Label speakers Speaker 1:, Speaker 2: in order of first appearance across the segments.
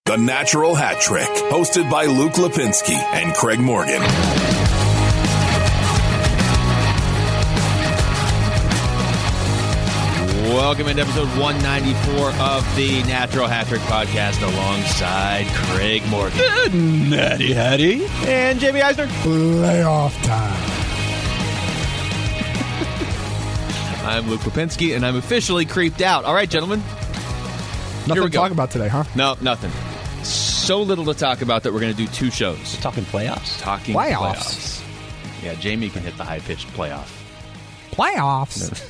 Speaker 1: The Natural Hat Trick, hosted by Luke Lipinski and Craig Morgan.
Speaker 2: Welcome into episode 194 of the Natural Hat Trick podcast alongside Craig Morgan.
Speaker 3: Natty Hattie.
Speaker 2: And Jamie Eisner.
Speaker 4: Playoff time.
Speaker 2: I'm Luke Lipinski, and I'm officially creeped out. All right, gentlemen.
Speaker 4: Nothing to talk about today, huh?
Speaker 2: No, nothing. So little to talk about that we're going to do two shows.
Speaker 3: Talking playoffs.
Speaker 2: Talking playoffs. Yeah, Jamie can hit the high-pitched playoff.
Speaker 4: Playoffs?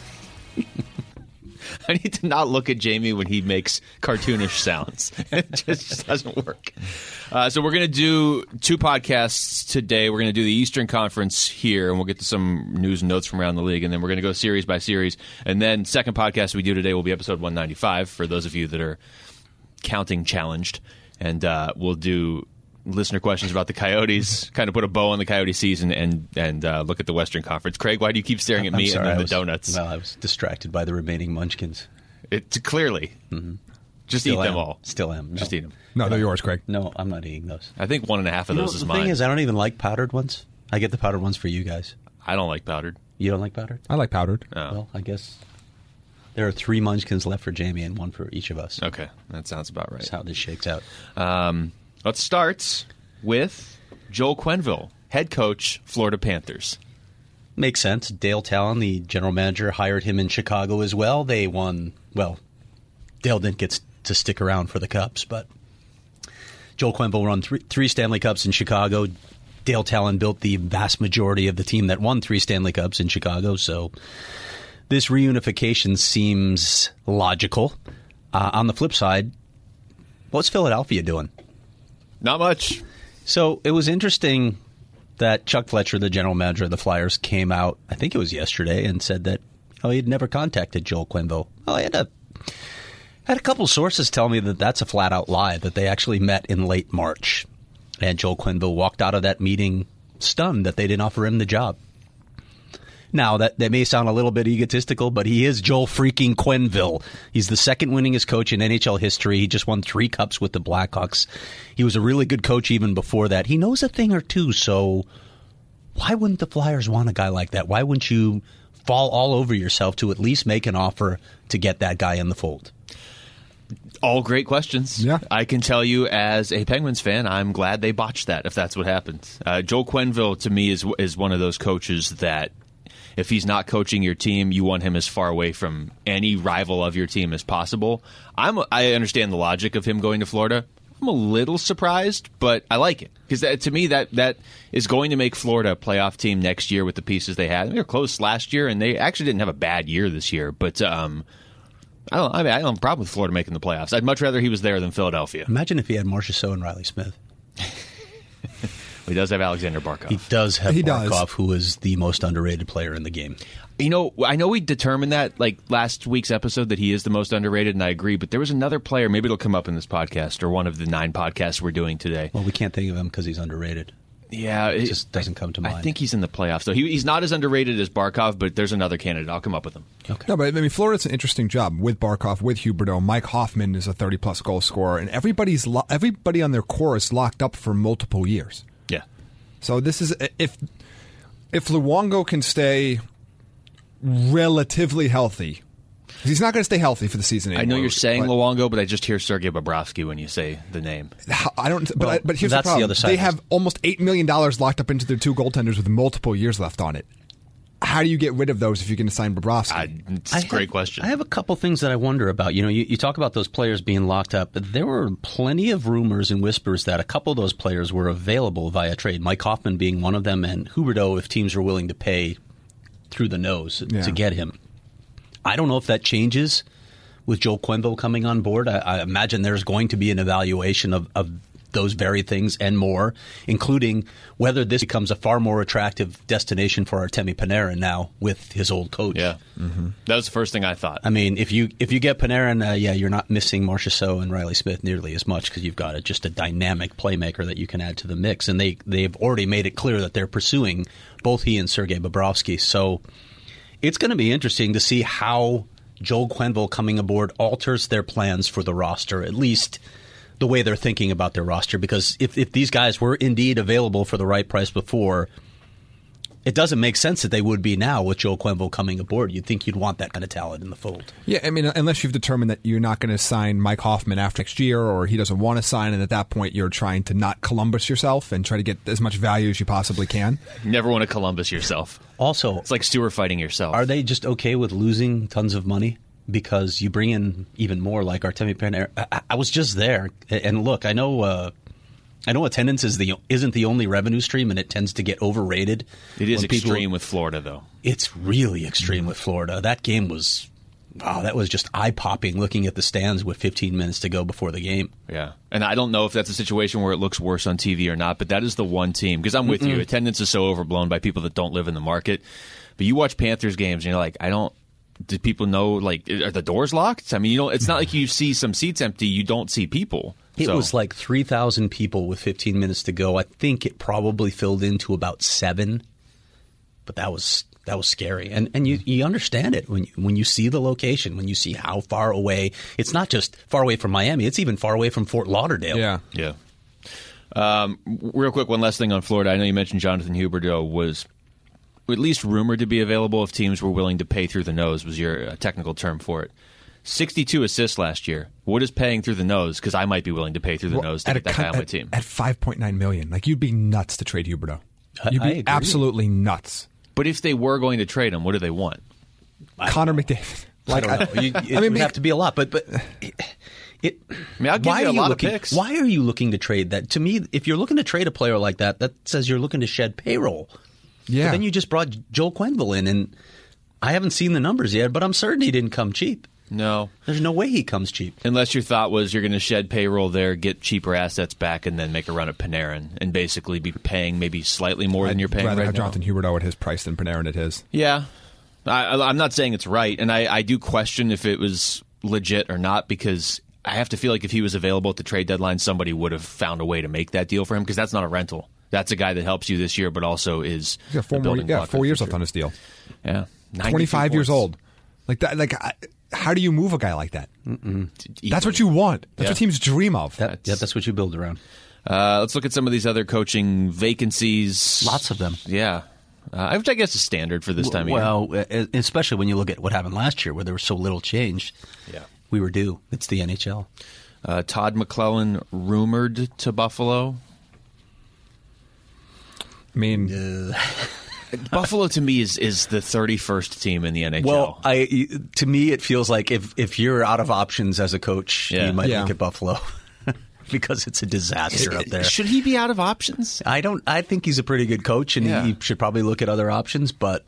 Speaker 2: I need to not look at Jamie when he makes cartoonish sounds. It just doesn't work. So we're going to do two podcasts today. We're going to do the Eastern Conference here, and we'll get to some news and notes from around the league, and then we're going to go series by series. And then second podcast we do today will be episode 195 for those of you that are counting challenged. And we'll do listener questions about the Coyotes, kind of put a bow on the Coyote season, and look at the Western Conference. Craig, why do you keep staring at me and then the donuts?
Speaker 3: Well, I was distracted by the remaining munchkins.
Speaker 2: Clearly. Mm-hmm. Just eat them all.
Speaker 3: Still am.
Speaker 2: Just eat them.
Speaker 4: No, they're yours, Craig.
Speaker 3: No, I'm not eating those.
Speaker 2: I think 1.5 of those is mine.
Speaker 3: The thing is, I don't even like powdered ones. I get the powdered ones for you guys.
Speaker 2: I don't like powdered.
Speaker 3: You don't like powdered?
Speaker 4: I like powdered.
Speaker 2: Oh.
Speaker 3: Well, I guess there are 3 munchkins left for Jamie and 1 for each of us.
Speaker 2: Okay, that sounds about right.
Speaker 3: That's how this shakes out.
Speaker 2: Let's start with Joel Quenneville, head coach, Florida Panthers.
Speaker 3: Makes sense. Dale Talon, the general manager, hired him in Chicago as well. They won. Well, Dale didn't get to stick around for the Cups, but Joel Quenneville won 3 Stanley Cups in Chicago. Dale Talon built the vast majority of the team that won 3 Stanley Cups in Chicago, so this reunification seems logical. On the flip side, what's Philadelphia doing?
Speaker 2: Not much.
Speaker 3: So it was interesting that Chuck Fletcher, the general manager of the Flyers, came out, I think it was yesterday, and said that he had never contacted Joel Quenneville. Well, I had a couple sources tell me that that's a flat-out lie, that they actually met in late March. And Joel Quenneville walked out of that meeting stunned that they didn't offer him the job. Now, that may sound a little bit egotistical, but he is Joel freaking Quenneville. He's the second winningest coach in NHL history. He just won 3 cups with the Blackhawks. He was a really good coach even before that. He knows a thing or two, so why wouldn't the Flyers want a guy like that? Why wouldn't you fall all over yourself to at least make an offer to get that guy in the fold?
Speaker 2: All great questions.
Speaker 4: Yeah.
Speaker 2: I can tell you as a Penguins fan, I'm glad they botched that, if that's what happened. Joel Quenneville, to me, is one of those coaches that if he's not coaching your team, you want him as far away from any rival of your team as possible. I understand the logic of him going to Florida. I'm a little surprised, but I like it. Because to me, that is going to make Florida a playoff team next year with the pieces they had. They were close last year, and they actually didn't have a bad year this year. But I don't have a problem with Florida making the playoffs. I'd much rather he was there than Philadelphia.
Speaker 3: Imagine if he had Marchessault and Riley Smith.
Speaker 2: He does have Alexander Barkov.
Speaker 3: He does have Barkov, who is the most underrated player in the game.
Speaker 2: You know, I know we determined that like last week's episode that he is the most underrated, and I agree, but there was another player, maybe it'll come up in this podcast or one of the 9 podcasts we're doing today.
Speaker 3: Well, we can't think of him because he's underrated.
Speaker 2: Yeah.
Speaker 3: It just doesn't come to mind.
Speaker 2: I think he's in the playoffs, though. He's not as underrated as Barkov, but there's another candidate. I'll come up with him.
Speaker 4: Okay. No, but I mean, Florida's an interesting job with Barkov, with Huberdeau. Mike Hoffman is a 30-plus goal scorer, and everybody on their core is locked up for multiple years.
Speaker 2: Yeah.
Speaker 4: So this is if Luongo can stay relatively healthy, because he's not going to stay healthy for the season anymore.
Speaker 2: I know you're saying Luongo, but I just hear Sergei Bobrovsky when you say the name.
Speaker 4: I don't. But here's the problem: they have almost $8 million locked up into their 2 goaltenders with multiple years left on it. How do you get rid of those if you're going to sign Bobrovsky?
Speaker 2: It's a great question.
Speaker 3: I have a couple things that I wonder about. You know, you talk about those players being locked up, but there were plenty of rumors and whispers that a couple of those players were available via trade. Mike Hoffman being one of them, and Huberdeau if teams were willing to pay through the nose to get him. I don't know if that changes with Joel Quenneville coming on board. I imagine there's going to be an evaluation of those very things and more, including whether this becomes a far more attractive destination for Artemi Panarin now with his old coach.
Speaker 2: Yeah, that was the first thing I thought.
Speaker 3: I mean, if you get Panarin, you're not missing Marchessault and Riley Smith nearly as much because you've got just a dynamic playmaker that you can add to the mix, and they've already made it clear that they're pursuing both he and Sergei Bobrovsky. So it's going to be interesting to see how Joel Quenneville coming aboard alters their plans for the roster, at least the way they're thinking about their roster. Because if these guys were indeed available for the right price before, it doesn't make sense that they would be now with Joel Quenneville coming aboard. You'd think you'd want that kind of talent in the fold.
Speaker 4: Yeah, I mean, unless you've determined that you're not going to sign Mike Hoffman after next year, or he doesn't want to sign, and at that point you're trying to not Columbus yourself and try to get as much value as you possibly can.
Speaker 2: You never want to Columbus yourself.
Speaker 3: Also,
Speaker 2: it's like Stewart fighting yourself.
Speaker 3: Are they just okay with losing tons of money because you bring in even more like Artemi Panarin? I was just there, and look, I know attendance isn't the only revenue stream, and it tends to get overrated.
Speaker 2: It is extreme with Florida, though.
Speaker 3: It's really extreme with Florida. That game was, that was just eye-popping looking at the stands with 15 minutes to go before the game.
Speaker 2: Yeah, and I don't know if that's a situation where it looks worse on TV or not, but that is the one team, because I'm with you, attendance is so overblown by people that don't live in the market. But you watch Panthers games, and you're like, do people know, like, are the doors locked? I mean, it's not like you see some seats empty, you don't see people.
Speaker 3: It was like 3,000 people with 15 minutes to go. I think it probably filled into about 7, but that was scary. And you understand it when you see the location, when you see how far away. It's not just far away from Miami; it's even far away from Fort Lauderdale.
Speaker 2: Yeah. Real quick, one last thing on Florida. I know you mentioned Jonathan Huberdeau was at least rumored to be available if teams were willing to pay through the nose. Was your technical term for it? 62 assists last year. What is paying through the nose? Because I might be willing to pay through the nose to get that guy on my team.
Speaker 4: At $5.9 million. Like, you'd be nuts to trade Huberdeau. You'd be absolutely nuts.
Speaker 2: But if they were going to trade him, what do they want?
Speaker 4: Connor McDavid.
Speaker 3: Like, I don't know. It would have to be a lot. But
Speaker 2: I'll give you a lot of picks.
Speaker 3: Why are you looking to trade that? To me, if you're looking to trade a player like that, that says you're looking to shed payroll. Yeah. But then you just brought Joel Quenneville in, and I haven't seen the numbers yet, but I'm certain he didn't come cheap.
Speaker 2: No.
Speaker 3: There's no way he comes cheap.
Speaker 2: Unless your thought was you're going to shed payroll there, get cheaper assets back, and then make a run at Panarin and basically be paying maybe slightly more than you're paying right now. I'd rather
Speaker 4: have Jonathan Huberdeau at his price than Panarin at his.
Speaker 2: Yeah. I'm not saying it's right, and I do question if it was legit or not, because I have to feel like if he was available at the trade deadline, somebody would have found a way to make that deal for him, because that's not a rental. That's a guy that helps you this year, but also is
Speaker 4: He's got 4 years left on his deal.
Speaker 2: Yeah.
Speaker 4: 25 years old. Like that. How do you move a guy like that? That's what you want. That's what teams dream of.
Speaker 3: That's what you build around.
Speaker 2: Let's look at some of these other coaching vacancies.
Speaker 3: Lots of them.
Speaker 2: Yeah. Which I guess is standard for this time of year.
Speaker 3: Well, especially when you look at what happened last year where there was so little change.
Speaker 2: Yeah.
Speaker 3: We were due. It's the NHL.
Speaker 2: Todd McClellan rumored to Buffalo.
Speaker 4: I mean...
Speaker 2: Buffalo to me is the 31st team in the NHL.
Speaker 3: Well, to me it feels like if you're out of options as a coach, you might look at Buffalo because it's a disaster up there.
Speaker 2: Should he be out of options?
Speaker 3: I think he's a pretty good coach, and he should probably look at other options. But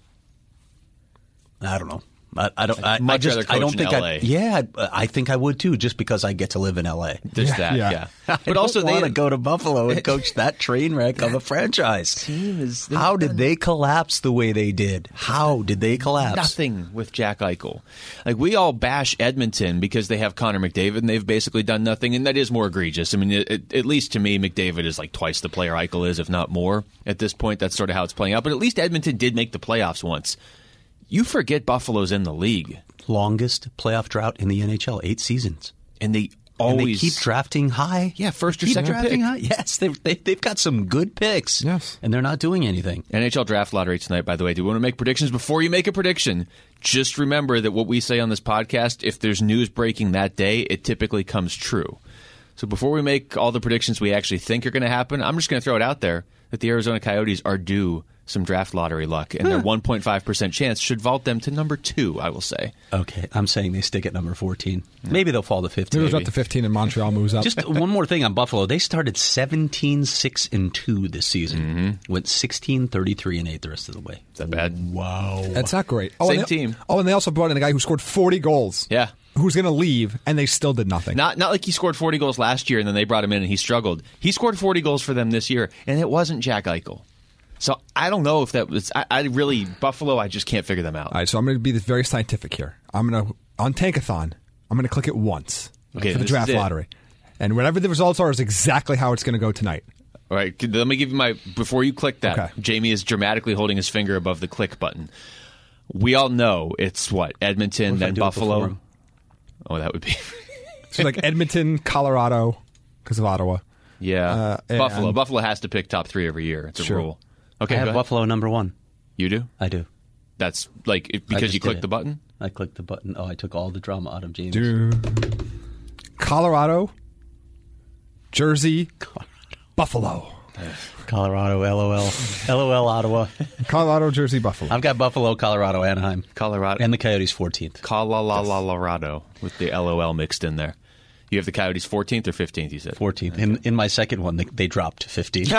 Speaker 3: I don't know. I don't think I think I would too, just because I get to live in LA.
Speaker 2: There's that, yeah.
Speaker 3: But also they want to go to Buffalo and coach that train wreck of a franchise. How did they collapse the way they did? How did they collapse?
Speaker 2: Nothing with Jack Eichel. Like, we all bash Edmonton because they have Connor McDavid and they've basically done nothing, and that is more egregious. I mean, at least to me, McDavid is like twice the player Eichel is, if not more. At this point, that's sort of how it's playing out. But at least Edmonton did make the playoffs once. You forget Buffalo's in the league.
Speaker 3: Longest playoff drought in the NHL, 8 seasons.
Speaker 2: And they
Speaker 3: keep drafting high.
Speaker 2: Yeah, first or second pick.
Speaker 3: High. Yes, they've got some good picks.
Speaker 4: Yes.
Speaker 3: And they're not doing anything.
Speaker 2: NHL draft lottery tonight, by the way. Do you want to make predictions? Before you make a prediction, just remember that what we say on this podcast, if there's news breaking that day, it typically comes true. So before we make all the predictions we actually think are going to happen, I'm just going to throw it out there that the Arizona Coyotes are due some draft lottery luck, and their 1.5% chance should vault them to number 2, I will say.
Speaker 3: Okay, I'm saying they stick at number 14. Maybe they'll fall to 15.
Speaker 4: Moves up to 15 and Montreal moves up.
Speaker 3: Just one more thing on Buffalo. They started 17-6-2 this season. Went 16-33-8 the rest of the way.
Speaker 2: Is that bad?
Speaker 3: Wow.
Speaker 4: That's not great.
Speaker 2: Same team.
Speaker 4: And they also brought in a guy who scored 40 goals.
Speaker 2: Yeah.
Speaker 4: Who's going to leave, and they still did nothing.
Speaker 2: Not like he scored 40 goals last year, and then they brought him in and he struggled. He scored 40 goals for them this year, and it wasn't Jack Eichel. So I don't know if that was. Buffalo, I just can't figure them out.
Speaker 4: All right, so I'm going to be very scientific here. I'm going to, on Tankathon, I'm going to click it once for the draft lottery. And whatever the results are is exactly how it's going to go tonight.
Speaker 2: All right, let me give you before you click that, okay. Jamie is dramatically holding his finger above the click button. We all know it's Edmonton, then Buffalo. Oh, that would be.
Speaker 4: So like Edmonton, Colorado, because of Ottawa.
Speaker 2: Yeah. Buffalo. Buffalo has to pick top 3 every year. It's a rule. Okay,
Speaker 3: I have Buffalo number 1.
Speaker 2: You do?
Speaker 3: I do.
Speaker 2: That's because you clicked the button?
Speaker 3: I clicked the button. Oh, I took all the drama out of James.
Speaker 4: Colorado, Jersey, Buffalo.
Speaker 3: Colorado, LOL. LOL, Ottawa.
Speaker 4: Colorado, Jersey, Buffalo.
Speaker 3: I've got Buffalo, Colorado, Anaheim.
Speaker 2: Colorado.
Speaker 3: And the Coyotes 14th.
Speaker 2: Colorado with the LOL mixed in there. You have the Coyotes 14th or 15th, you said?
Speaker 3: 14th. Okay. In my second one, they dropped to 15th.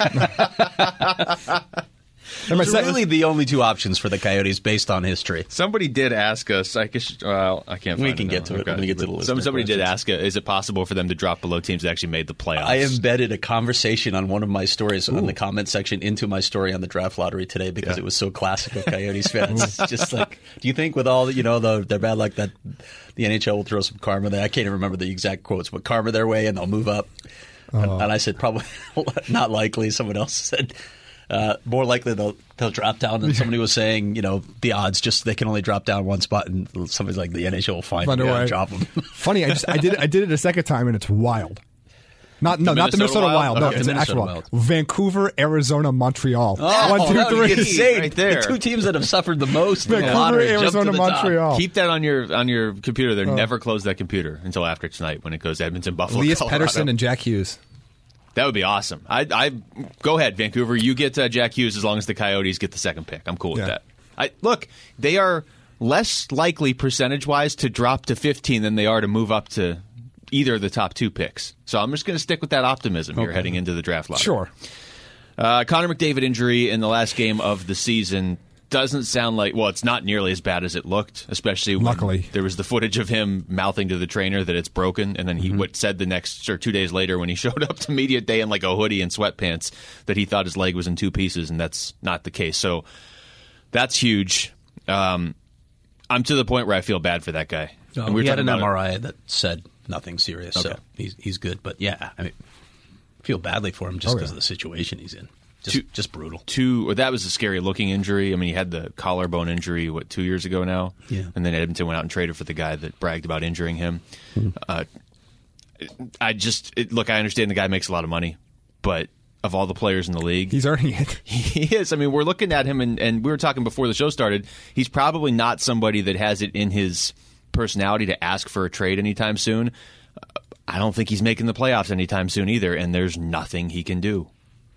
Speaker 3: It's really the only 2 options for the Coyotes based on history.
Speaker 2: Somebody did ask us. I can't find
Speaker 3: We can get to it when we get to the list.
Speaker 2: Somebody did ask, is it possible for them to drop below teams that actually made the playoffs?
Speaker 3: I embedded a conversation on one of my stories on the comment section into my story on the draft lottery today because it was so classic of Coyotes fans. It's just like, do you think with all their bad luck that the NHL will throw some karma there? I can't even remember the exact quotes, but karma their way and they'll move up. And I said, probably not likely. Someone else said, more likely they'll drop down. And somebody was saying, the odds just they can only drop down one spot, and somebody's like, the NHL will find them and drop them.
Speaker 4: Funny, I did it a second time, and it's wild. Not the Minnesota Wild. No, it's an actual Wild. Vancouver, Arizona, Montreal. 1, 2, 3.
Speaker 2: Insane. Right there.
Speaker 3: The 2 teams that have suffered the most.
Speaker 4: Vancouver, Arizona, Montreal.
Speaker 2: Keep that on your computer. They're never close that computer until after tonight when it goes Edmonton, Buffalo,
Speaker 4: Elias
Speaker 2: Colorado.
Speaker 4: Pettersson and Jack Hughes.
Speaker 2: That would be awesome. I go ahead, Vancouver. You get Jack Hughes as long as the Coyotes get the second pick. I'm cool with that. Look, they are less likely percentage-wise to drop to 15 than they are to move up to either of the top 2 picks. So I'm just going to stick with that optimism here heading into the draft lottery.
Speaker 4: Sure.
Speaker 2: Connor McDavid injury in the last game of the season doesn't sound like, well, it's not nearly as bad as it looked, especially when
Speaker 4: Luckily.
Speaker 2: There was the footage of him mouthing to the trainer that it's broken, and then he said the next, or 2 days later when he showed up to media day in like a hoodie and sweatpants that he thought his leg was in 2 pieces, and that's not the case. So that's huge. I'm to the point where I feel bad for that guy.
Speaker 3: No, we had an MRI that said nothing serious, so he's good. But yeah, I feel badly for him just because of the situation he's in. Just brutal.
Speaker 2: That was a scary looking injury. I mean, he had the collarbone injury, 2 years ago now?
Speaker 3: Yeah.
Speaker 2: And then Edmonton went out and traded for the guy that bragged about injuring him. Look, I understand the guy makes a lot of money, but of all the players in the league,
Speaker 4: he's earning it.
Speaker 2: He is. I mean, we're looking at him, and we were talking before the show started. He's probably not somebody that has it in his personality to ask for a trade anytime soon. I don't think he's making the playoffs anytime soon either, and there's nothing he can do.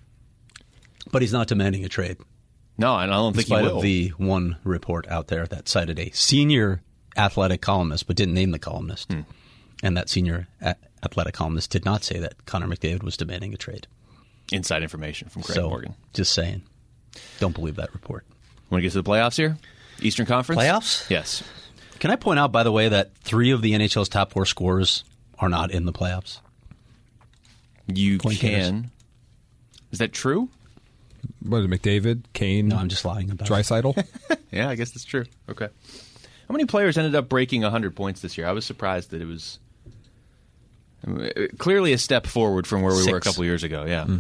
Speaker 3: But he's not demanding a trade.
Speaker 2: No, and I don't think he will.
Speaker 3: In spite of the one report out there that cited a senior athletic columnist, but didn't name the columnist. And that senior athletic columnist did not say that Connor McDavid was demanding a trade.
Speaker 2: Inside information from Craig Morgan.
Speaker 3: Just saying. Don't believe that report.
Speaker 2: Want to get to the playoffs here? Eastern Conference?
Speaker 3: Playoffs?
Speaker 2: Yes.
Speaker 3: Can I point out, by the way, that 3 of the NHL's top 4 scorers are not in the playoffs?
Speaker 2: You can. Is that true?
Speaker 4: What is it, McDavid, Kane?
Speaker 3: No, I'm just lying about
Speaker 4: Draisaitl?
Speaker 2: Yeah, I guess that's true. Okay. How many players ended up breaking 100 points this year? I was surprised that it was clearly a step forward from where we were a couple years ago. Yeah.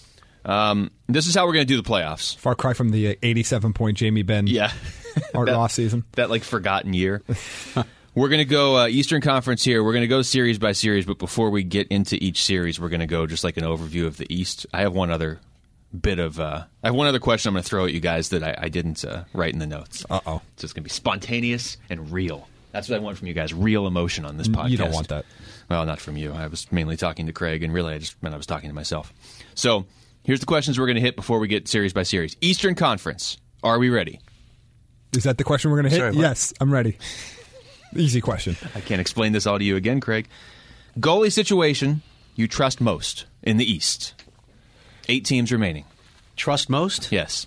Speaker 2: This is how we're going to do the playoffs.
Speaker 4: Far cry from the 87-point Jamie Benn Art Ross season.
Speaker 2: That forgotten year. We're going to go Eastern Conference here. We're going to go series by series, but before we get into each series, we're going to go just like an overview of the East. I have one other question I'm going to throw at you guys that I didn't write in the notes.
Speaker 4: Uh-oh.
Speaker 2: So it's going to be spontaneous and real. That's what I want from you guys, real emotion on this podcast.
Speaker 4: You don't want that.
Speaker 2: Well, not from you. I was mainly talking to Craig, and really I just meant I was talking to myself. So here's the questions we're going to hit before we get series by series. Eastern Conference. Are we ready?
Speaker 4: Is that the question we're going to hit?
Speaker 3: Sorry,
Speaker 4: yes, I'm ready. Easy question.
Speaker 2: I can't explain this all to you again, Craig. Goalie situation you trust most in the East. 8 teams remaining.
Speaker 3: Trust most?
Speaker 2: Yes.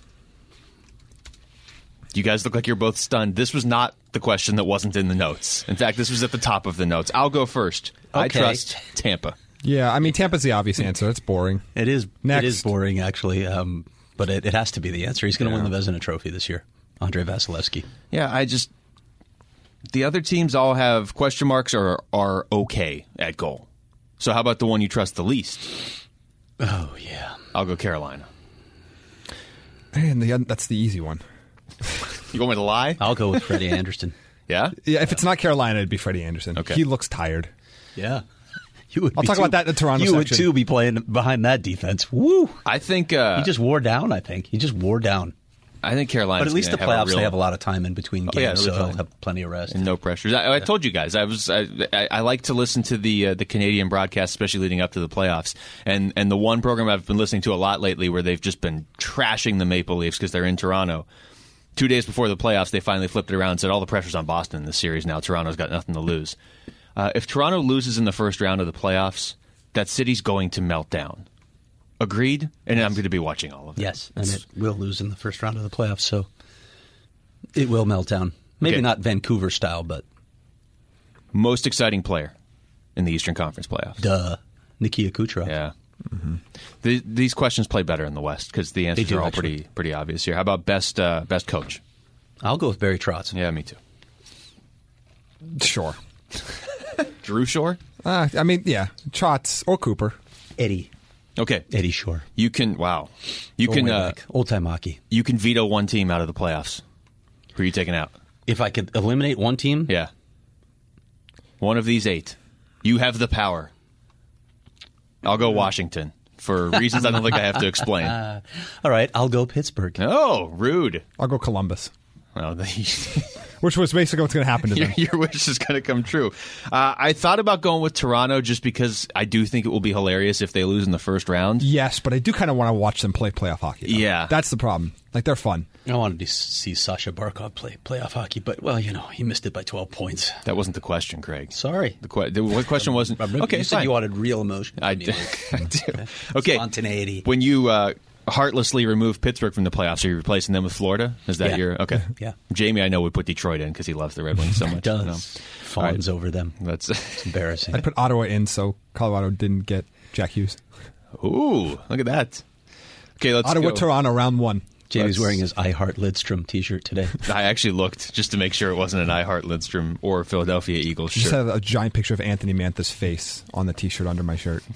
Speaker 2: You guys look like you're both stunned. This was not the question that wasn't in the notes. In fact, this was at the top of the notes. I'll go first.
Speaker 3: Okay.
Speaker 2: I trust Tampa.
Speaker 4: Yeah, I mean, Tampa's the obvious answer. It's boring.
Speaker 3: It is.
Speaker 4: Next.
Speaker 3: It is boring, actually. But it has to be the answer. He's going to win the Vezina Trophy this year. Andrei Vasilevsky.
Speaker 2: Yeah, the other teams all have question marks or are okay at goal. So how about the one you trust the least?
Speaker 3: Oh, yeah.
Speaker 2: I'll go Carolina.
Speaker 4: Man, that's the easy one.
Speaker 2: You want me to lie?
Speaker 3: I'll go with Freddie Anderson.
Speaker 2: Yeah?
Speaker 4: Yeah, if it's not Carolina, it'd be Freddie Anderson.
Speaker 2: Okay.
Speaker 4: He looks tired.
Speaker 3: Yeah.
Speaker 4: I'll talk about that in the Toronto
Speaker 3: You would,
Speaker 4: section.
Speaker 3: too, be playing behind that defense. Woo!
Speaker 2: I think
Speaker 3: He just wore down, I think. He just wore down.
Speaker 2: I think Carolina.
Speaker 3: But at least the playoffs, they have a lot of time in between games,
Speaker 2: yeah, it'll be
Speaker 3: so
Speaker 2: fine.
Speaker 3: he'll have plenty of rest.
Speaker 2: And no pressures. I told you guys, I like to listen to the Canadian broadcast, especially leading up to the playoffs. And the one program I've been listening to a lot lately where they've just been trashing the Maple Leafs because they're in Toronto. 2 days before the playoffs, they finally flipped it around and said all the pressure's on Boston in this series now. Toronto's got nothing to lose. If Toronto loses in the first round of the playoffs, that city's going to melt down. Agreed? And I'm going to be watching all of it.
Speaker 3: Yes, and it will lose in the first round of the playoffs, so it will melt down. Maybe
Speaker 2: Okay.
Speaker 3: not Vancouver style, but
Speaker 2: Most exciting player in the Eastern Conference playoffs.
Speaker 3: Nikita Kucherov.
Speaker 2: Yeah. Mm-hmm. These questions play better in the West because the answers
Speaker 3: do,
Speaker 2: are all
Speaker 3: actually.
Speaker 2: pretty obvious here. How about best coach?
Speaker 3: I'll go with Barry Trotz.
Speaker 2: Yeah, me too.
Speaker 4: Sure.
Speaker 2: Drew Shore?
Speaker 4: I mean, yeah, Trotz or Cooper.
Speaker 3: Eddie
Speaker 2: You
Speaker 3: Shore.
Speaker 2: can
Speaker 3: Going way back. Old time hockey.
Speaker 2: you can veto one team out of the playoffs. Who are you taking out?
Speaker 3: If I could eliminate one team,
Speaker 2: Yeah. One of these 8. You have the power. I'll go Washington for reasons I don't think I have to explain.
Speaker 3: all right, I'll go Pittsburgh.
Speaker 2: Oh, rude.
Speaker 4: I'll go Columbus,
Speaker 2: Well,
Speaker 4: which was basically what's going to happen to them.
Speaker 2: your wish is going to come true. I thought about going with Toronto just because I do think it will be hilarious if they lose in the first round.
Speaker 4: Yes, but I do kind of want to watch them play playoff hockey. though.
Speaker 2: Yeah.
Speaker 4: That's the problem. Like, they're fun.
Speaker 3: I wanted to see Sasha Barkov play playoff hockey, but, well, he missed it by 12 points.
Speaker 2: That wasn't the question, Craig.
Speaker 3: Sorry.
Speaker 2: What question wasn't? Okay,
Speaker 3: you said
Speaker 2: fine.
Speaker 3: you wanted real emotion.
Speaker 2: I do. I do. Okay.
Speaker 3: Spontaneity.
Speaker 2: When you heartlessly remove Pittsburgh from the playoffs, are you replacing them with Florida? Is that
Speaker 3: Yeah.
Speaker 2: your okay?
Speaker 3: Yeah.
Speaker 2: Jamie, I know would put Detroit in because he loves the Red Wings so much.
Speaker 3: Does.
Speaker 2: No.
Speaker 3: Fawns over them.
Speaker 2: That's
Speaker 3: It's embarrassing.
Speaker 4: I'd put Ottawa in so Colorado didn't get Jack Hughes.
Speaker 2: ooh, look at that. Okay, let's
Speaker 4: Ottawa,
Speaker 2: go.
Speaker 4: Toronto, round 1.
Speaker 3: Jamie's
Speaker 2: Let's-
Speaker 3: wearing his I Heart Lidstrom t-shirt today.
Speaker 2: I actually looked just to make sure it wasn't an I Heart Lindstrom or Philadelphia Eagles
Speaker 4: Just
Speaker 2: shirt.
Speaker 4: have a giant picture of Anthony Mantha's face on the T-shirt under my shirt.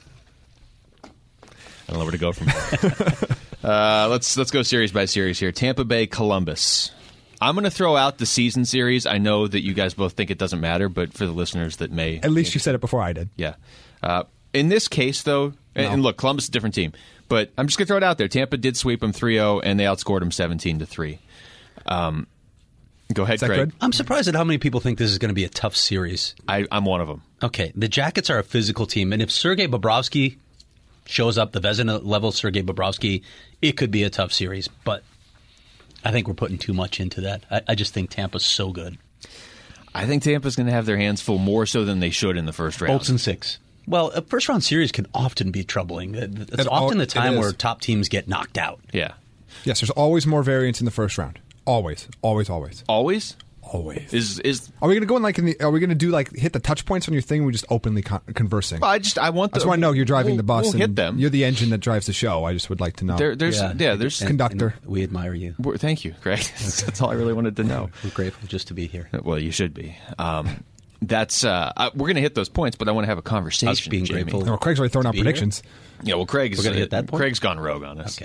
Speaker 2: I don't know where to go from there. Let's go series by series here. Tampa Bay, Columbus. I'm going to throw out the season series. I know that you guys both think it doesn't matter, but for the listeners that may...
Speaker 4: At least you said it before I did.
Speaker 2: Yeah. In this case, though, and look, Columbus is a different team, but I'm just going to throw it out there. Tampa did sweep them 3-0, and they outscored them 17-3. Go ahead,
Speaker 4: Is that
Speaker 2: Craig.
Speaker 4: good?
Speaker 3: I'm surprised at how many people think this is going to be a tough series.
Speaker 2: I'm one of them.
Speaker 3: Okay, the Jackets are a physical team, and if Sergei Bobrovsky shows up, the Vezina-level Sergei Bobrovsky, it could be a tough series, but I think we're putting too much into that. I just think Tampa's so good.
Speaker 2: I think Tampa's going to have their hands full more so than they should in the first round.
Speaker 3: Bolts and 6. Well, a first-round series can often be troubling. It's
Speaker 4: It
Speaker 3: often the
Speaker 4: it
Speaker 3: time
Speaker 4: is.
Speaker 3: where top teams get knocked out.
Speaker 2: Yeah.
Speaker 4: Yes, there's always more variance in the first round. Always, always, always,
Speaker 2: Always?
Speaker 4: always.
Speaker 2: Is
Speaker 4: Are we going to go in like are we going to do like hit the touch points on your thing? Or we just openly conversing.
Speaker 2: Well, I want.
Speaker 4: That's why I know you're driving the bus.
Speaker 2: We'll
Speaker 4: and
Speaker 2: hit them.
Speaker 4: You're the engine that drives the show. I just would like to know.
Speaker 2: There's
Speaker 3: And-
Speaker 4: Conductor.
Speaker 3: and we admire you.
Speaker 2: Thank you, Greg. That's all I really wanted to know.
Speaker 3: We're grateful just to be here.
Speaker 2: Well, you should be. That's we're going to hit those points, but I want to have a conversation.
Speaker 3: Us being
Speaker 2: Jamie.
Speaker 3: grateful.
Speaker 4: Well, Craig's already thrown out
Speaker 3: be here?
Speaker 4: predictions.
Speaker 2: Yeah, well, Craig's
Speaker 3: We're gonna hit that point?
Speaker 2: Craig's gone rogue on us.
Speaker 3: Okay.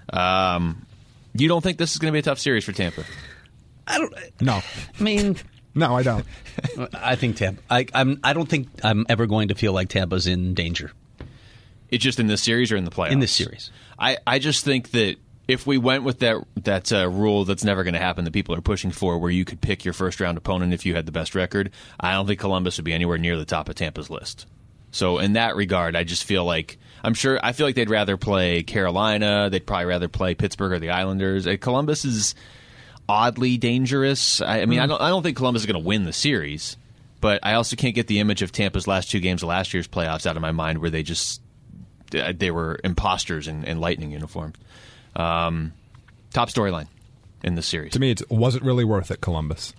Speaker 2: You don't think this is going to be a tough series for Tampa?
Speaker 4: No,
Speaker 3: I mean,
Speaker 4: no, I don't.
Speaker 3: I think Tampa. I don't think I'm ever going to feel like Tampa's in danger
Speaker 2: It's just in this series or in the playoffs?
Speaker 3: in this series.
Speaker 2: I just think that if we went with that rule that's never going to happen that people are pushing for, where you could pick your first round opponent if you had the best record, I don't think Columbus would be anywhere near the top of Tampa's list. So in that regard, I just feel like I feel like they'd rather play Carolina. They'd probably rather play Pittsburgh or the Islanders. Columbus is oddly dangerous. I mean, I don't think Columbus is going to win the series, but I also can't get the image of Tampa's last 2 games of last year's playoffs out of my mind, where they were imposters in Lightning uniforms. Top storyline in the series.
Speaker 4: To me, was it really worth it, Columbus?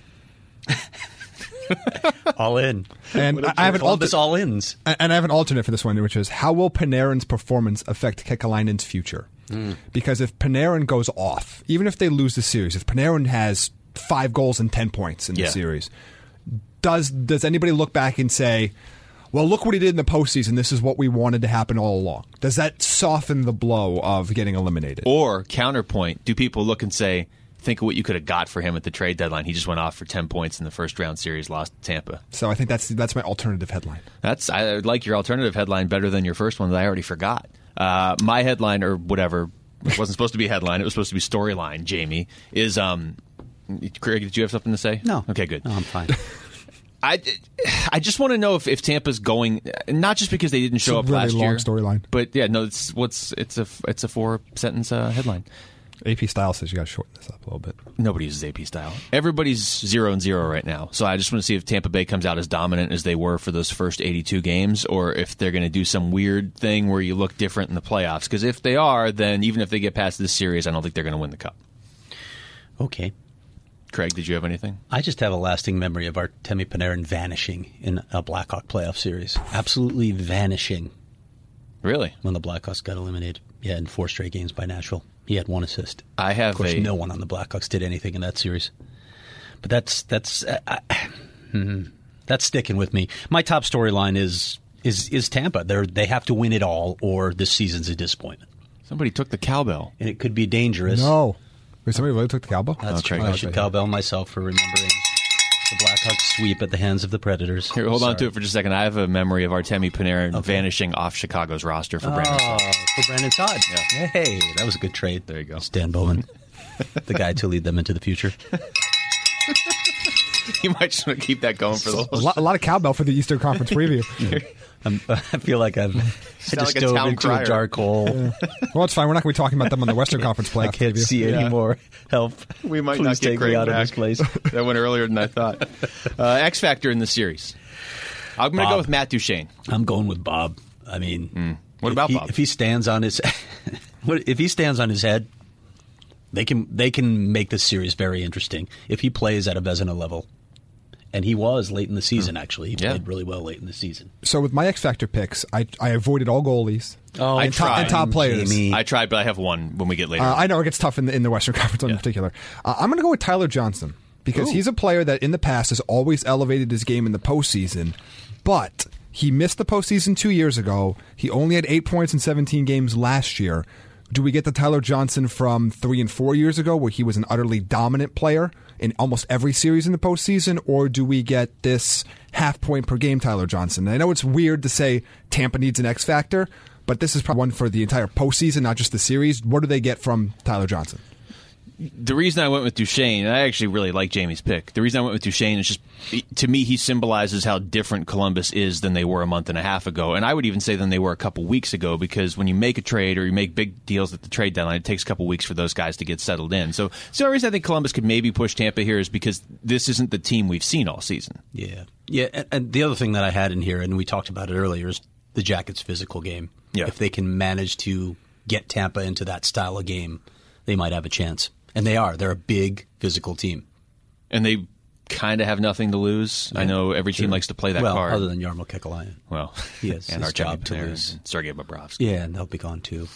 Speaker 3: All in.
Speaker 4: And I have an
Speaker 3: Columbus
Speaker 4: alternate.
Speaker 3: all ins.
Speaker 4: And I have an alternate for this one, which is how will Panarin's performance affect Kekalainen's future? Because if Panarin goes off, even if they lose the series, if Panarin has 5 goals and 10 points in the
Speaker 2: Yeah.
Speaker 4: series, does anybody look back and say, well, look what he did in the postseason. This is what we wanted to happen all along. Does that soften the blow of getting eliminated?
Speaker 2: Or counterpoint, do people look and say, think of what you could have got for him at the trade deadline. He just went off for 10 points in the first round series, lost to Tampa.
Speaker 4: So I think that's my alternative headline.
Speaker 2: I like your alternative headline better than your first one that I already forgot. My headline, or whatever, it wasn't supposed to be a headline. It was supposed to be storyline, Jamie, is... Craig, did you have something to say?
Speaker 3: No.
Speaker 2: Okay, good.
Speaker 3: No, I'm fine.
Speaker 2: I just want to know if Tampa's going, not just because they didn't show up
Speaker 4: really
Speaker 2: last year.
Speaker 4: long storyline.
Speaker 2: But yeah, no, it's a 4-sentence headline.
Speaker 4: AP Style says you got to shorten this up a little bit.
Speaker 2: Nobody uses AP Style. Everybody's 0-0 right now. So I just want to see if Tampa Bay comes out as dominant as they were for those first 82 games, or if they're going to do some weird thing where you look different in the playoffs. Because if they are, then even if they get past this series, I don't think they're going to win the Cup.
Speaker 3: Okay.
Speaker 2: Craig, did you have anything?
Speaker 3: I just have a lasting memory of Artemi Panarin vanishing in a Blackhawk playoff series. Absolutely vanishing.
Speaker 2: Really?
Speaker 3: When the Blackhawks got eliminated. Yeah, in 4 straight games by Nashville. He had 1 assist.
Speaker 2: Of
Speaker 3: course, no one on the Blackhawks did anything in that series. But that's sticking with me. My top storyline is Tampa. They have to win it all, or this season's a disappointment.
Speaker 2: Somebody took the cowbell.
Speaker 3: And it could be dangerous.
Speaker 4: No. Wait, somebody really took the cowbell?
Speaker 3: That's true.
Speaker 2: Craig.
Speaker 3: I should cowbell myself for remembering the Blackhawks sweep at the hands of the Predators.
Speaker 2: Here, hold on to it for just a second. I have a memory of Artemi Panarin vanishing off Chicago's roster for Brandon Todd.
Speaker 3: For Brandon Todd.
Speaker 2: Yeah.
Speaker 3: Hey, that was a good trade.
Speaker 2: There you go.
Speaker 3: Stan Bowman, the guy to lead them into the future.
Speaker 2: You might just want to keep that going for the whole
Speaker 4: A lot of cowbell for the Eastern Conference preview.
Speaker 3: I feel like I just
Speaker 2: like a
Speaker 3: dove
Speaker 2: town
Speaker 3: into
Speaker 2: crier.
Speaker 3: a dark hole.
Speaker 4: Well, it's fine. We're not going to be talking about them on the Western Conference playoff
Speaker 3: I can't
Speaker 4: preview.
Speaker 3: see any more help.
Speaker 2: We might
Speaker 3: Please
Speaker 2: not get
Speaker 3: take
Speaker 2: Craig
Speaker 3: me out
Speaker 2: back.
Speaker 3: of this place.
Speaker 2: That went earlier than I thought. X Factor in the series. I'm going to go with Matt Duchene.
Speaker 3: I'm going with Bob. I mean,
Speaker 2: What about Bob?
Speaker 3: If he stands on his, if he stands on his head, they can make this series very interesting. If he plays at a Vezina level, and he was late in the season. Actually, he played really well late in the season.
Speaker 4: So with my X Factor picks, I avoided all goalies.
Speaker 3: Oh,
Speaker 2: I
Speaker 4: and
Speaker 2: tried.
Speaker 4: and top players.
Speaker 3: Jamie.
Speaker 2: I tried, but I have one when we get later.
Speaker 4: I know it gets tough in the Western Conference in particular. I'm going to go with Tyler Johnson because he's a player that in the past has always elevated his game in the postseason, but he missed the postseason 2 years ago. He only had 8 points in 17 games last year. Do we get the Tyler Johnson from 3 and 4 years ago where he was an utterly dominant player in almost every series in the postseason, or do we get this half-point per game Tyler Johnson? And I know it's weird to say Tampa needs an X Factor, but this is probably one for the entire postseason, not just the series. What do they get from Tyler Johnson?
Speaker 2: The reason I went with Duchene, and I actually really like Jamie's pick, the reason I went with Duchene is just, to me, he symbolizes how different Columbus is than they were a month and a half ago. And I would even say than they were a couple weeks ago, because when you make a trade or you make big deals at the trade deadline, it takes a couple weeks for those guys to get settled in. So the only reason I think Columbus could maybe push Tampa here is because this isn't the team we've seen all season.
Speaker 3: Yeah. And the other thing that I had in here, and we talked about it earlier, is the Jackets' physical game.
Speaker 2: Yeah.
Speaker 3: If they can manage to get Tampa into that style of game, they might have a chance. And they are. They're a big physical team.
Speaker 2: And they kind of have nothing to lose. Yeah, I know every team likes to play that card.
Speaker 3: Other than Jarmo Kekalainen.
Speaker 2: Well,
Speaker 3: he has
Speaker 2: and
Speaker 3: his
Speaker 2: Artemi
Speaker 3: job to
Speaker 2: Panarin
Speaker 3: lose.
Speaker 2: and Sergei Bobrovsky.
Speaker 3: Yeah, and they'll be gone too.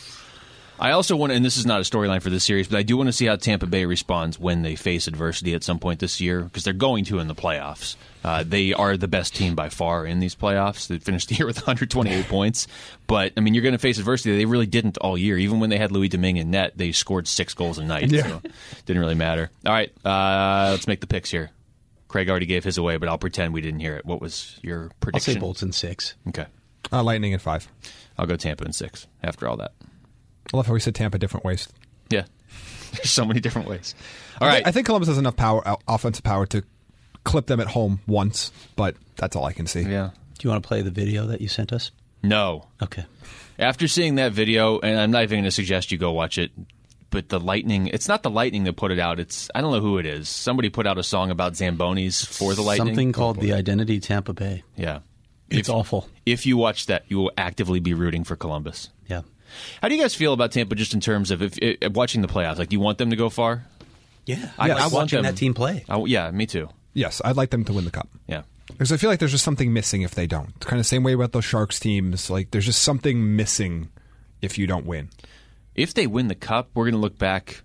Speaker 2: I also want to, and this is not a storyline for this series, but I do want to see how Tampa Bay responds when they face adversity at some point this year, because they're going to in the playoffs. They are the best team by far in these playoffs. They finished the year with 128 points. But, I mean, you're going to face adversity. They really didn't all year. Even when they had Louis Domingue in net, they scored 6 goals a night.
Speaker 4: Yeah.
Speaker 2: So it didn't really matter. All right, let's make the picks here. Craig already gave his away, but I'll pretend we didn't hear it. What was your prediction?
Speaker 3: I'll say Bolts in 6.
Speaker 2: Okay.
Speaker 4: Lightning in 5.
Speaker 2: I'll go Tampa in 6 after all that.
Speaker 4: I love how we said Tampa different ways.
Speaker 2: Yeah. There's so many different ways. All right.
Speaker 4: I think Columbus has enough power, offensive power, to clip them at home once, but that's all I can see.
Speaker 2: Yeah.
Speaker 3: Do you want to play the video that you sent us?
Speaker 2: No.
Speaker 3: Okay.
Speaker 2: After seeing that video, and I'm not even going to suggest you go watch it, but the Lightning, it's not the Lightning that put it out. It's, I don't know who it is. Somebody put out a song about Zambonis for the Lightning.
Speaker 3: Something called The Identity Tampa Bay.
Speaker 2: Yeah.
Speaker 3: It's awful.
Speaker 2: If you watch that, you will actively be rooting for Columbus.
Speaker 3: Yeah.
Speaker 2: How do you guys feel about Tampa just in terms of watching the playoffs? Like, do you want them to go far?
Speaker 3: Yeah.
Speaker 2: I
Speaker 3: like
Speaker 2: want
Speaker 3: watching
Speaker 2: them-
Speaker 3: that team play.
Speaker 2: Yeah, me too.
Speaker 4: Yes, I'd like them to win the Cup.
Speaker 2: Yeah.
Speaker 4: Because I feel like there's just something missing if they don't. It's kind of the same way about those Sharks teams. Like, there's just something missing if you don't win.
Speaker 2: If they win the Cup, we're going to look back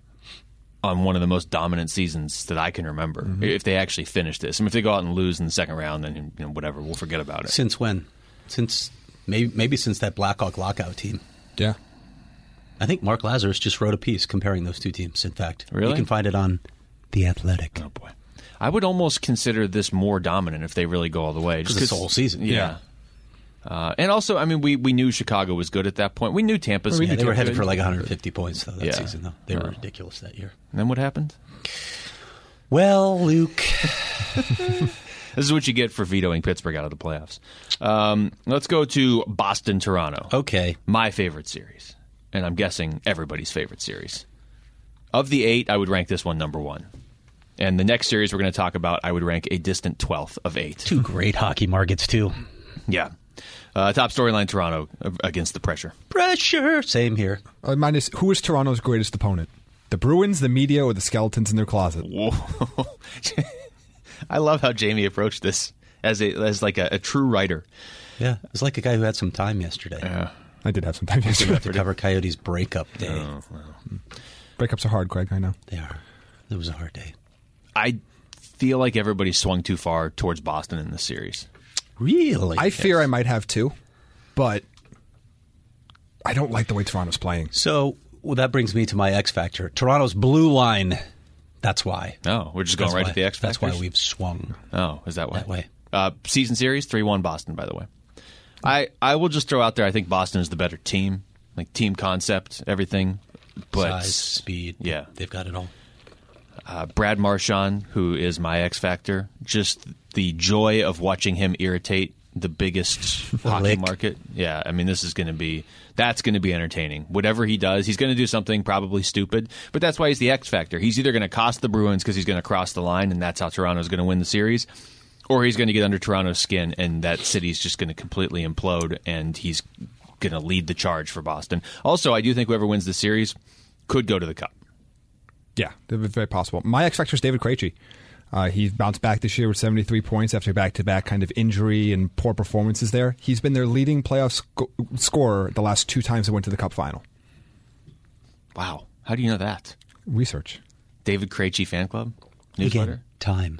Speaker 2: on one of the most dominant seasons that I can remember.
Speaker 4: Mm-hmm.
Speaker 2: If they actually finish this. I mean, if they go out and lose in the second round, then whatever, we'll forget about it.
Speaker 3: Since when? Since maybe since that Blackhawk lockout team.
Speaker 4: Yeah.
Speaker 3: I think Mark Lazarus just wrote a piece comparing those two teams, in fact.
Speaker 2: Really?
Speaker 3: You can find it on The Athletic.
Speaker 2: Oh, boy. I would almost consider this more dominant if they really go all the way.
Speaker 3: Because it's the whole season.
Speaker 2: Yeah. And also, I mean, we knew Chicago was good at that point. We knew Tampa's
Speaker 3: They were
Speaker 2: good.
Speaker 3: headed for like 150 points, though, that season, though. They were ridiculous that year.
Speaker 2: And then what happened?
Speaker 3: Well, Luke.
Speaker 2: This is what you get for vetoing Pittsburgh out of the playoffs. Let's go to Boston-Toronto.
Speaker 3: Okay.
Speaker 2: My favorite series. And I'm guessing everybody's favorite series. Of the 8, I would rank this one number 1. And the next series we're going to talk about, I would rank a distant 12th of 8.
Speaker 3: Two great hockey markets, too.
Speaker 2: Yeah. Top storyline, Toronto against the pressure.
Speaker 3: Pressure. Same here.
Speaker 4: Mine is, who is Toronto's greatest opponent? The Bruins, the media, or the skeletons in their closet?
Speaker 2: Whoa. I love how Jamie approached this as like a true writer.
Speaker 3: Yeah. It's like a guy who had some time yesterday.
Speaker 2: Yeah.
Speaker 4: I did have some time yesterday.
Speaker 3: To cover Coyotes' breakup day.
Speaker 2: Oh, well.
Speaker 4: Breakups are hard, Craig, I know.
Speaker 3: They are. It was a hard day.
Speaker 2: I feel like everybody swung too far towards Boston in this series.
Speaker 3: Really?
Speaker 4: I fear I might have too, but I don't like the way Toronto's playing.
Speaker 3: So, that brings me to my X factor. Toronto's blue line. That's why.
Speaker 2: Oh, we're just going right to the X factors?
Speaker 3: That's why we've swung.
Speaker 2: Oh, is that why?
Speaker 3: That way.
Speaker 2: Season series, 3-1 Boston, by the way. I will just throw out there, I think Boston is the better team. Like team concept, everything. But
Speaker 3: size, speed.
Speaker 2: Yeah.
Speaker 3: They've got it all.
Speaker 2: Brad Marchand, who is my X factor, just the joy of watching him irritate the biggest hockey market. Yeah, I mean, that's going to be entertaining. Whatever he does, he's going to do something probably stupid, but that's why he's the X factor. He's either going to cost the Bruins because he's going to cross the line, and that's how Toronto's going to win the series, or he's going to get under Toronto's skin, and that city's just going to completely implode, and he's going to lead the charge for Boston. Also, I do think whoever wins the series could go to the Cup.
Speaker 4: Yeah, it's very possible. My X factor is David Krejci. He bounced back this year with 73 points after back-to-back kind of injury and poor performances there. He's been their leading playoff scorer the last 2 times they went to the Cup final.
Speaker 2: Wow. How do you know that?
Speaker 4: Research.
Speaker 2: David Krejci fan club? Newsletter?
Speaker 3: Again, time.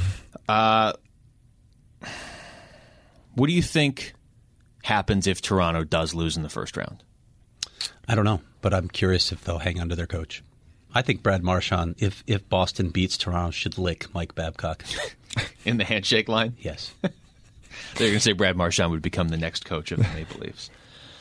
Speaker 2: What do you think happens if Toronto does lose in the first round?
Speaker 3: I don't know, but I'm curious if they'll hang on to their coach. I think Brad Marchand, if Boston beats Toronto, should lick Mike Babcock.
Speaker 2: In the handshake line?
Speaker 3: Yes.
Speaker 2: They're going to say Brad Marchand would become the next coach of the Maple Leafs.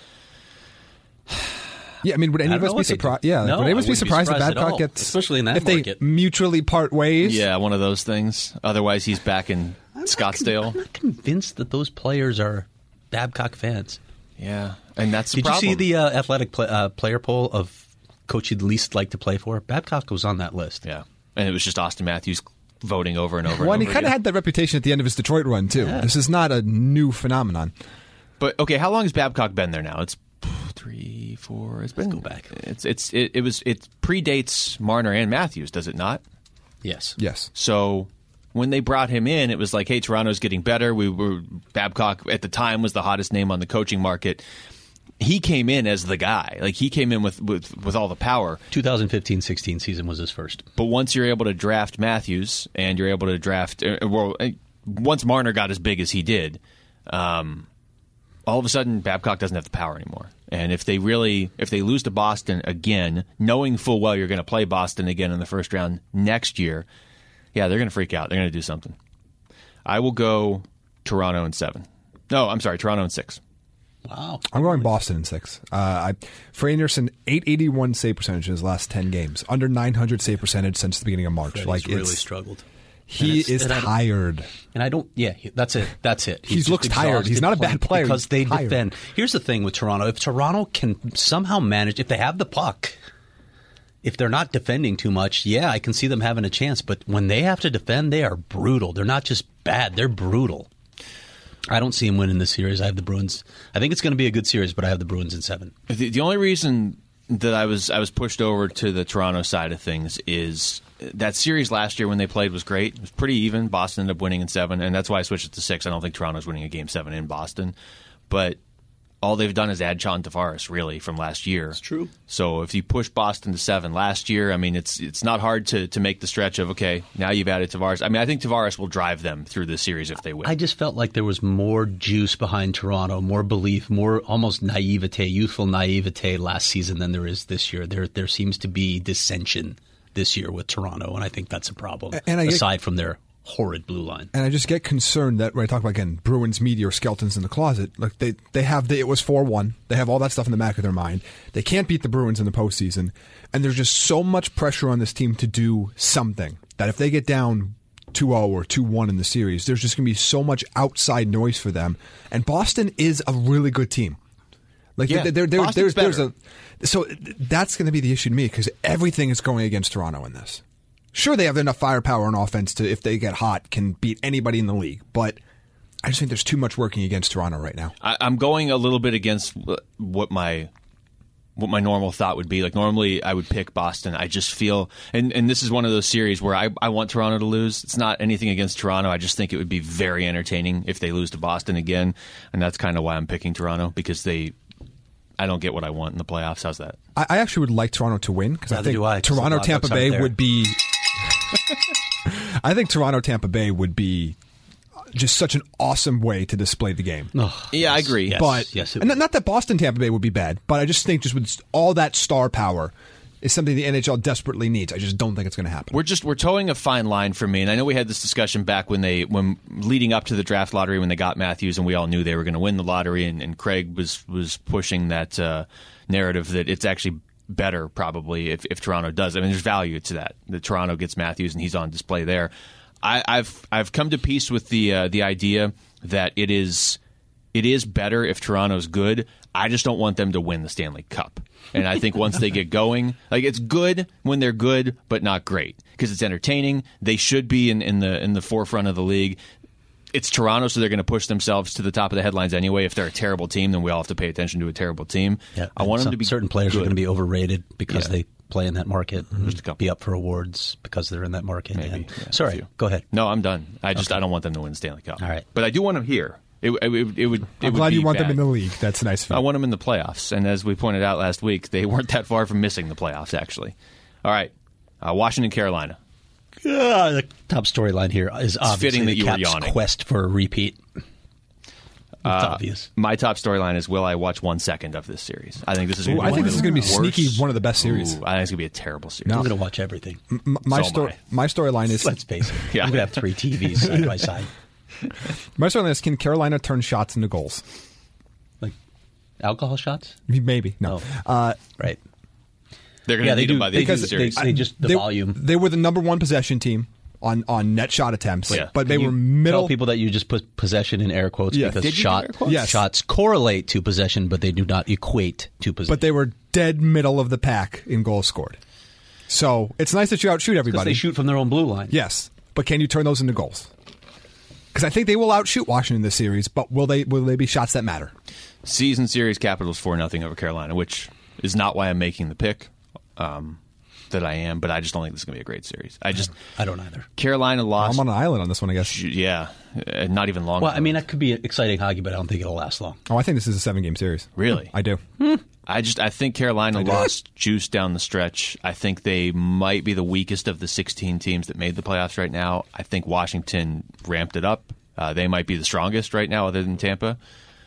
Speaker 4: Yeah, I mean, would any of us be surprised? Yeah,
Speaker 3: no,
Speaker 4: would any of us be surprised if
Speaker 3: at
Speaker 4: Babcock
Speaker 3: all,
Speaker 4: gets,
Speaker 3: especially in that
Speaker 4: if
Speaker 3: market.
Speaker 4: they mutually part ways?
Speaker 2: Yeah, one of those things. Otherwise, he's back in Scottsdale.
Speaker 3: I'm not convinced that those players are Babcock fans.
Speaker 2: Yeah, and that's the
Speaker 3: Did
Speaker 2: problem.
Speaker 3: you see the athletic player poll of coach you'd least like to play for? Babcock was on that list.
Speaker 2: Yeah, and it was just Austin Matthews voting over and over
Speaker 4: Well,
Speaker 2: and
Speaker 4: and he
Speaker 2: over
Speaker 4: kind of
Speaker 2: again.
Speaker 4: had that reputation at the end of his Detroit run, too.
Speaker 3: Yeah.
Speaker 4: This is not a new phenomenon.
Speaker 2: But, okay, how long has Babcock been there now? It's 3, 4... It's been...
Speaker 3: Let's go back.
Speaker 2: It predates Marner and Matthews, does it not?
Speaker 3: Yes.
Speaker 4: Yes.
Speaker 2: So when they brought him in, it was like, hey, Toronto's getting better. Babcock at the time was the hottest name on the coaching market. He came in as the guy. Like, he came in with all the power.
Speaker 3: 2015-16 season was his first.
Speaker 2: But once you're able to draft Matthews and you're able to draft once Marner got as big as he did, all of a sudden Babcock doesn't have the power anymore. And if they lose to Boston again, knowing full well you're going to play Boston again in the first round next year, yeah, they're going to freak out. They're going to do something. I will go Toronto in 7. No, I'm sorry, Toronto in 6.
Speaker 3: Wow.
Speaker 4: I'm going Boston in 6. For Anderson, 881 save percentage in his last 10 games. Under 900 save percentage since the beginning of March.
Speaker 3: He's really struggled.
Speaker 4: He is tired.
Speaker 3: And I don't, that's it. That's it.
Speaker 4: He
Speaker 3: just
Speaker 4: looks tired. He's not a bad player.
Speaker 3: Because
Speaker 4: He's
Speaker 3: they
Speaker 4: tired.
Speaker 3: defend. Here's the thing with Toronto. If Toronto can somehow manage, if they have the puck, if they're not defending too much, yeah, I can see them having a chance. But when they have to defend, they are brutal. They're not just bad. They're brutal. I don't see him winning this series. I have the Bruins. I think it's going to be a good series, but I have the Bruins in 7.
Speaker 2: The only reason that I was pushed over to the Toronto side of things is that series last year when they played was great. It was pretty even. Boston ended up winning in 7, and that's why I switched it to 6. I don't think Toronto's winning a Game 7 in Boston. But all they've done is add John Tavares, really, from last year.
Speaker 3: It's true.
Speaker 2: So if you push Boston to 7 last year, I mean, it's not hard to make the stretch of, okay, now you've added Tavares. I mean, I think Tavares will drive them through the series if they win.
Speaker 3: I just felt like there was more juice behind Toronto, more belief, more almost naivete, youthful naivete last season than there is this year. There seems to be dissension this year with Toronto, and I think that's a problem, aside from their horrid blue line.
Speaker 4: And I just get concerned that when I talk about, again, Bruins media or skeletons in the closet, like they have it was 4-1. They have all that stuff in the back of their mind. They can't beat the Bruins in the postseason. And there's just so much pressure on this team to do something that if they get down 2-0 or 2-1 in the series, there's just going to be so much outside noise for them. And Boston is a really good team. Like there's so that's going to be the issue to me because everything is going against Toronto in this. Sure, they have enough firepower on offense to, if they get hot, can beat anybody in the league. But I just think there's too much working against Toronto right now.
Speaker 2: I'm going a little bit against what my normal thought would be. Like normally I would pick Boston. I just feel, and this is one of those series where I want Toronto to lose. It's not anything against Toronto. I just think it would be very entertaining if they lose to Boston again. And that's kind of why I'm picking Toronto, because I don't get what I want in the playoffs. How's that?
Speaker 4: I actually would like Toronto to win because I think Toronto Tampa Bay would be. I think Toronto Tampa Bay would be just such an awesome way to display the game.
Speaker 2: Oh, yeah, I agree.
Speaker 4: But and not that Boston Tampa Bay would be bad, but I just think just with all that star power is something the NHL desperately needs. I just don't think it's going to happen.
Speaker 2: We're towing a fine line for me, and I know we had this discussion back when leading up to the draft lottery when they got Matthews, and we all knew they were going to win the lottery, and Craig was pushing that narrative that it's actually better probably if Toronto does. I mean, there's value to that. That Toronto gets Matthews and he's on display there. I've come to peace with the idea that it is better if Toronto's good. I just don't want them to win the Stanley Cup. And I think once they get going, like it's good when they're good, but not great because it's entertaining. They should be in the forefront of the league. It's Toronto, so they're going to push themselves to the top of the headlines anyway. If they're a terrible team, then we all have to pay attention to a terrible team.
Speaker 3: Yeah,
Speaker 2: I want them to be
Speaker 3: certain players
Speaker 2: good.
Speaker 3: are going to be overrated because they play in that market.
Speaker 2: Just a couple.
Speaker 3: Be up for awards because they're in that market.
Speaker 2: Maybe.
Speaker 3: Yeah. Sorry, go ahead.
Speaker 2: No, I'm done. I don't want them to win the Stanley Cup.
Speaker 3: All right,
Speaker 2: but I do want them here. It would.
Speaker 4: I'm glad you want them in the league. That's nice of you.
Speaker 2: I want them in the playoffs, and as we pointed out last week, they weren't that far from missing the playoffs. Actually, all right. Washington, Carolina.
Speaker 3: The top storyline here is obviously the Caps' quest for a repeat. It's obvious.
Speaker 2: My top storyline is: will I watch 1 second of this series? I think this is.
Speaker 4: I think this is going to be sneaky one of the best series.
Speaker 2: I think it's going to be a terrible series.
Speaker 3: I'm going to watch everything.
Speaker 4: My storyline is.
Speaker 3: Let's face it. Yeah. I'm going to have 3 TVs side by side.
Speaker 4: My storyline is: can Carolina turn shots into goals?
Speaker 3: Like alcohol shots?
Speaker 4: Maybe no.
Speaker 3: Right.
Speaker 2: They're going to need them by the end of the series.
Speaker 3: They just the volume.
Speaker 4: They were the number 1 possession team on net shot attempts, but they were
Speaker 3: middle. Tell people that you just put possession in air quotes because shots correlate to possession, but they do not equate to possession.
Speaker 4: But they were dead middle of the pack in goals scored. So it's nice that you outshoot everybody.
Speaker 3: Because they shoot from their own blue line.
Speaker 4: Yes, but can you turn those into goals? Because I think they will outshoot Washington this series, but will they be shots that matter?
Speaker 2: Season series Capitals 4-0 over Carolina, which is not why I'm making the pick. That I am, but I just don't think this is going to be a great series. I
Speaker 3: don't either.
Speaker 2: Carolina lost.
Speaker 4: I'm on an island on this one, I guess.
Speaker 2: Yeah, not even long.
Speaker 3: Well, I mean, that could be exciting hockey, but I don't think it'll last long.
Speaker 4: Oh, I think this is a 7-game series.
Speaker 2: Really?
Speaker 4: I do.
Speaker 2: I think Carolina lost juice down the stretch. I think they might be the weakest of the 16 teams that made the playoffs right now. I think Washington ramped it up. They might be the strongest right now other than Tampa.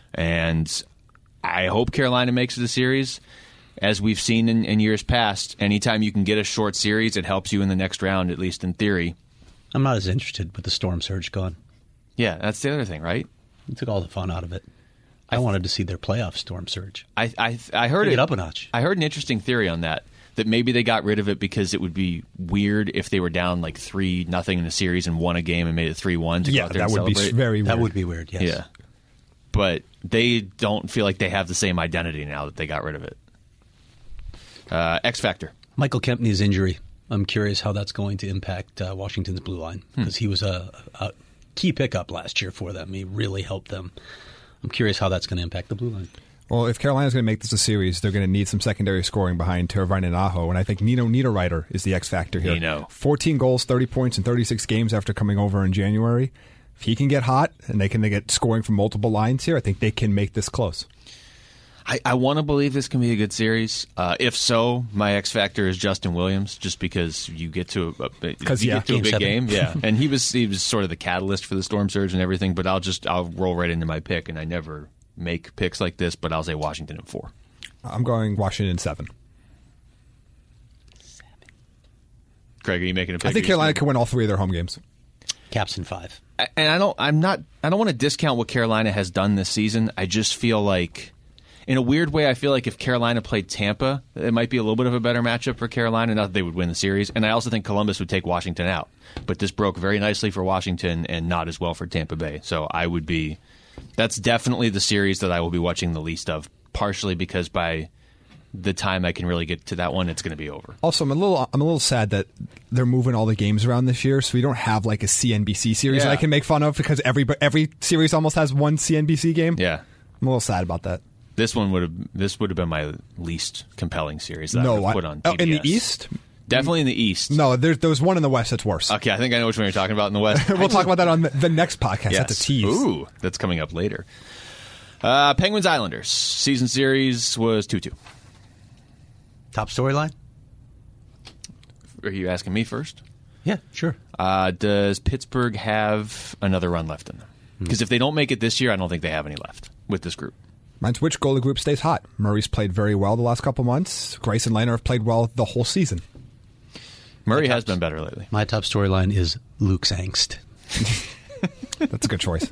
Speaker 2: And I hope Carolina makes it a series. As we've seen in years past, anytime you can get a short series, it helps you in the next round, at least in theory.
Speaker 3: I'm not as interested with the storm surge gone.
Speaker 2: Yeah, that's the other thing, right?
Speaker 3: It took all the fun out of it. I wanted to see their playoff storm surge.
Speaker 2: I heard
Speaker 3: it up a notch.
Speaker 2: I heard an interesting theory on that maybe they got rid of it because it would be weird if they were down like 3-0 in a series and won a game and made it 3-1 to go out there and celebrate.
Speaker 4: Be very weird.
Speaker 3: That would be weird, yes.
Speaker 2: Yeah. But they don't feel like they have the same identity now that they got rid of it. X Factor.
Speaker 3: Michael Kempney's injury. I'm curious how that's going to impact Washington's blue line because he was a key pickup last year for them. He really helped them. I'm curious how that's going to impact the blue line.
Speaker 4: Well, if Carolina's going to make this a series, they're going to need some secondary scoring behind Teravainen and Aho, and I think Nino Niederreiter is the X Factor here.
Speaker 2: Nino.
Speaker 4: 14 goals, 30 points in 36 games after coming over in January. If he can get hot and they get scoring from multiple lines here, I think they can make this close.
Speaker 2: I want to believe this can be a good series. If so, my X factor is Justin Williams, just because you get to a big game, yeah. And he was sort of the catalyst for the Storm surge and everything. But I'll roll right into my pick, and I never make picks like this. But I'll say Washington in 4.
Speaker 4: I'm going Washington in 7.
Speaker 2: Craig, are you making a pick?
Speaker 4: I think Carolina can win all 3 of their home games.
Speaker 3: Caps in 5.
Speaker 2: And I don't want to discount what Carolina has done this season. I just feel like, in a weird way, I feel like if Carolina played Tampa, it might be a little bit of a better matchup for Carolina. Not that they would win the series. And I also think Columbus would take Washington out. But this broke very nicely for Washington and not as well for Tampa Bay. So that's definitely the series that I will be watching the least of, partially because by the time I can really get to that one, it's going to be over.
Speaker 4: Also, I'm a little sad that they're moving all the games around this year, so we don't have like a CNBC series that I can make fun of, because every series almost has one CNBC game.
Speaker 2: Yeah,
Speaker 4: I'm a little sad about that.
Speaker 2: This would have been my least compelling series that I would have put on TBS.
Speaker 4: In the East?
Speaker 2: Definitely in the East.
Speaker 4: No, there was one in the West that's worse.
Speaker 2: Okay, I think I know which one you're talking about in the West.
Speaker 4: We'll talk about that on the next podcast.
Speaker 2: Yes.
Speaker 4: That's a tease.
Speaker 2: Ooh, that's coming up later. Penguins Islanders. Season series was 2-2.
Speaker 3: Top storyline?
Speaker 2: Are you asking me first?
Speaker 3: Yeah, sure.
Speaker 2: Does Pittsburgh have another run left in them? Because if they don't make it this year, I don't think they have any left with this group.
Speaker 4: Mine's which goalie group stays hot. Murray's played very well the last couple months. Grace and Laner have played well the whole season.
Speaker 2: Murray has been better lately.
Speaker 3: My top storyline is Luke's angst.
Speaker 4: That's a good choice.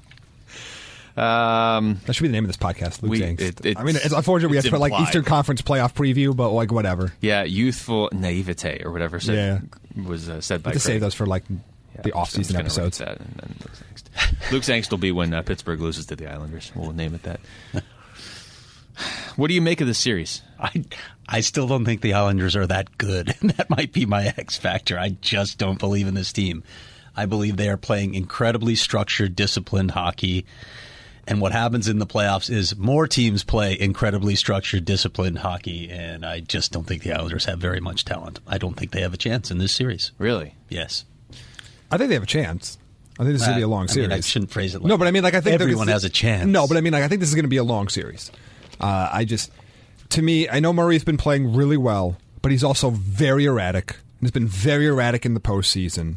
Speaker 4: That should be the name of this podcast, Luke's angst. It's unfortunate we have to put like Eastern Conference playoff preview, but like whatever.
Speaker 2: Yeah, youthful naivete or whatever was said by Craig.
Speaker 4: To save those for like the off-season episodes.
Speaker 2: That and then Luke's angst. Luke's angst will be when Pittsburgh loses to the Islanders. We'll name it that. What do you make of this series?
Speaker 3: I still don't think the Islanders are that good. That might be my X factor. I just don't believe in this team. I believe they are playing incredibly structured, disciplined hockey. And what happens in the playoffs is more teams play incredibly structured, disciplined hockey, and I just don't think the Islanders have very much talent. I don't think they have a chance in this series.
Speaker 2: Really?
Speaker 3: Yes.
Speaker 4: I think they have a chance. I think this is going to be a long series.
Speaker 3: I shouldn't phrase it like
Speaker 4: no, but I mean, like, I think
Speaker 3: everyone has a chance.
Speaker 4: No, but I mean, like, I think this is going to be a long series. To me, I know Murray's been playing really well, but he's also very erratic. He's been very erratic in the postseason.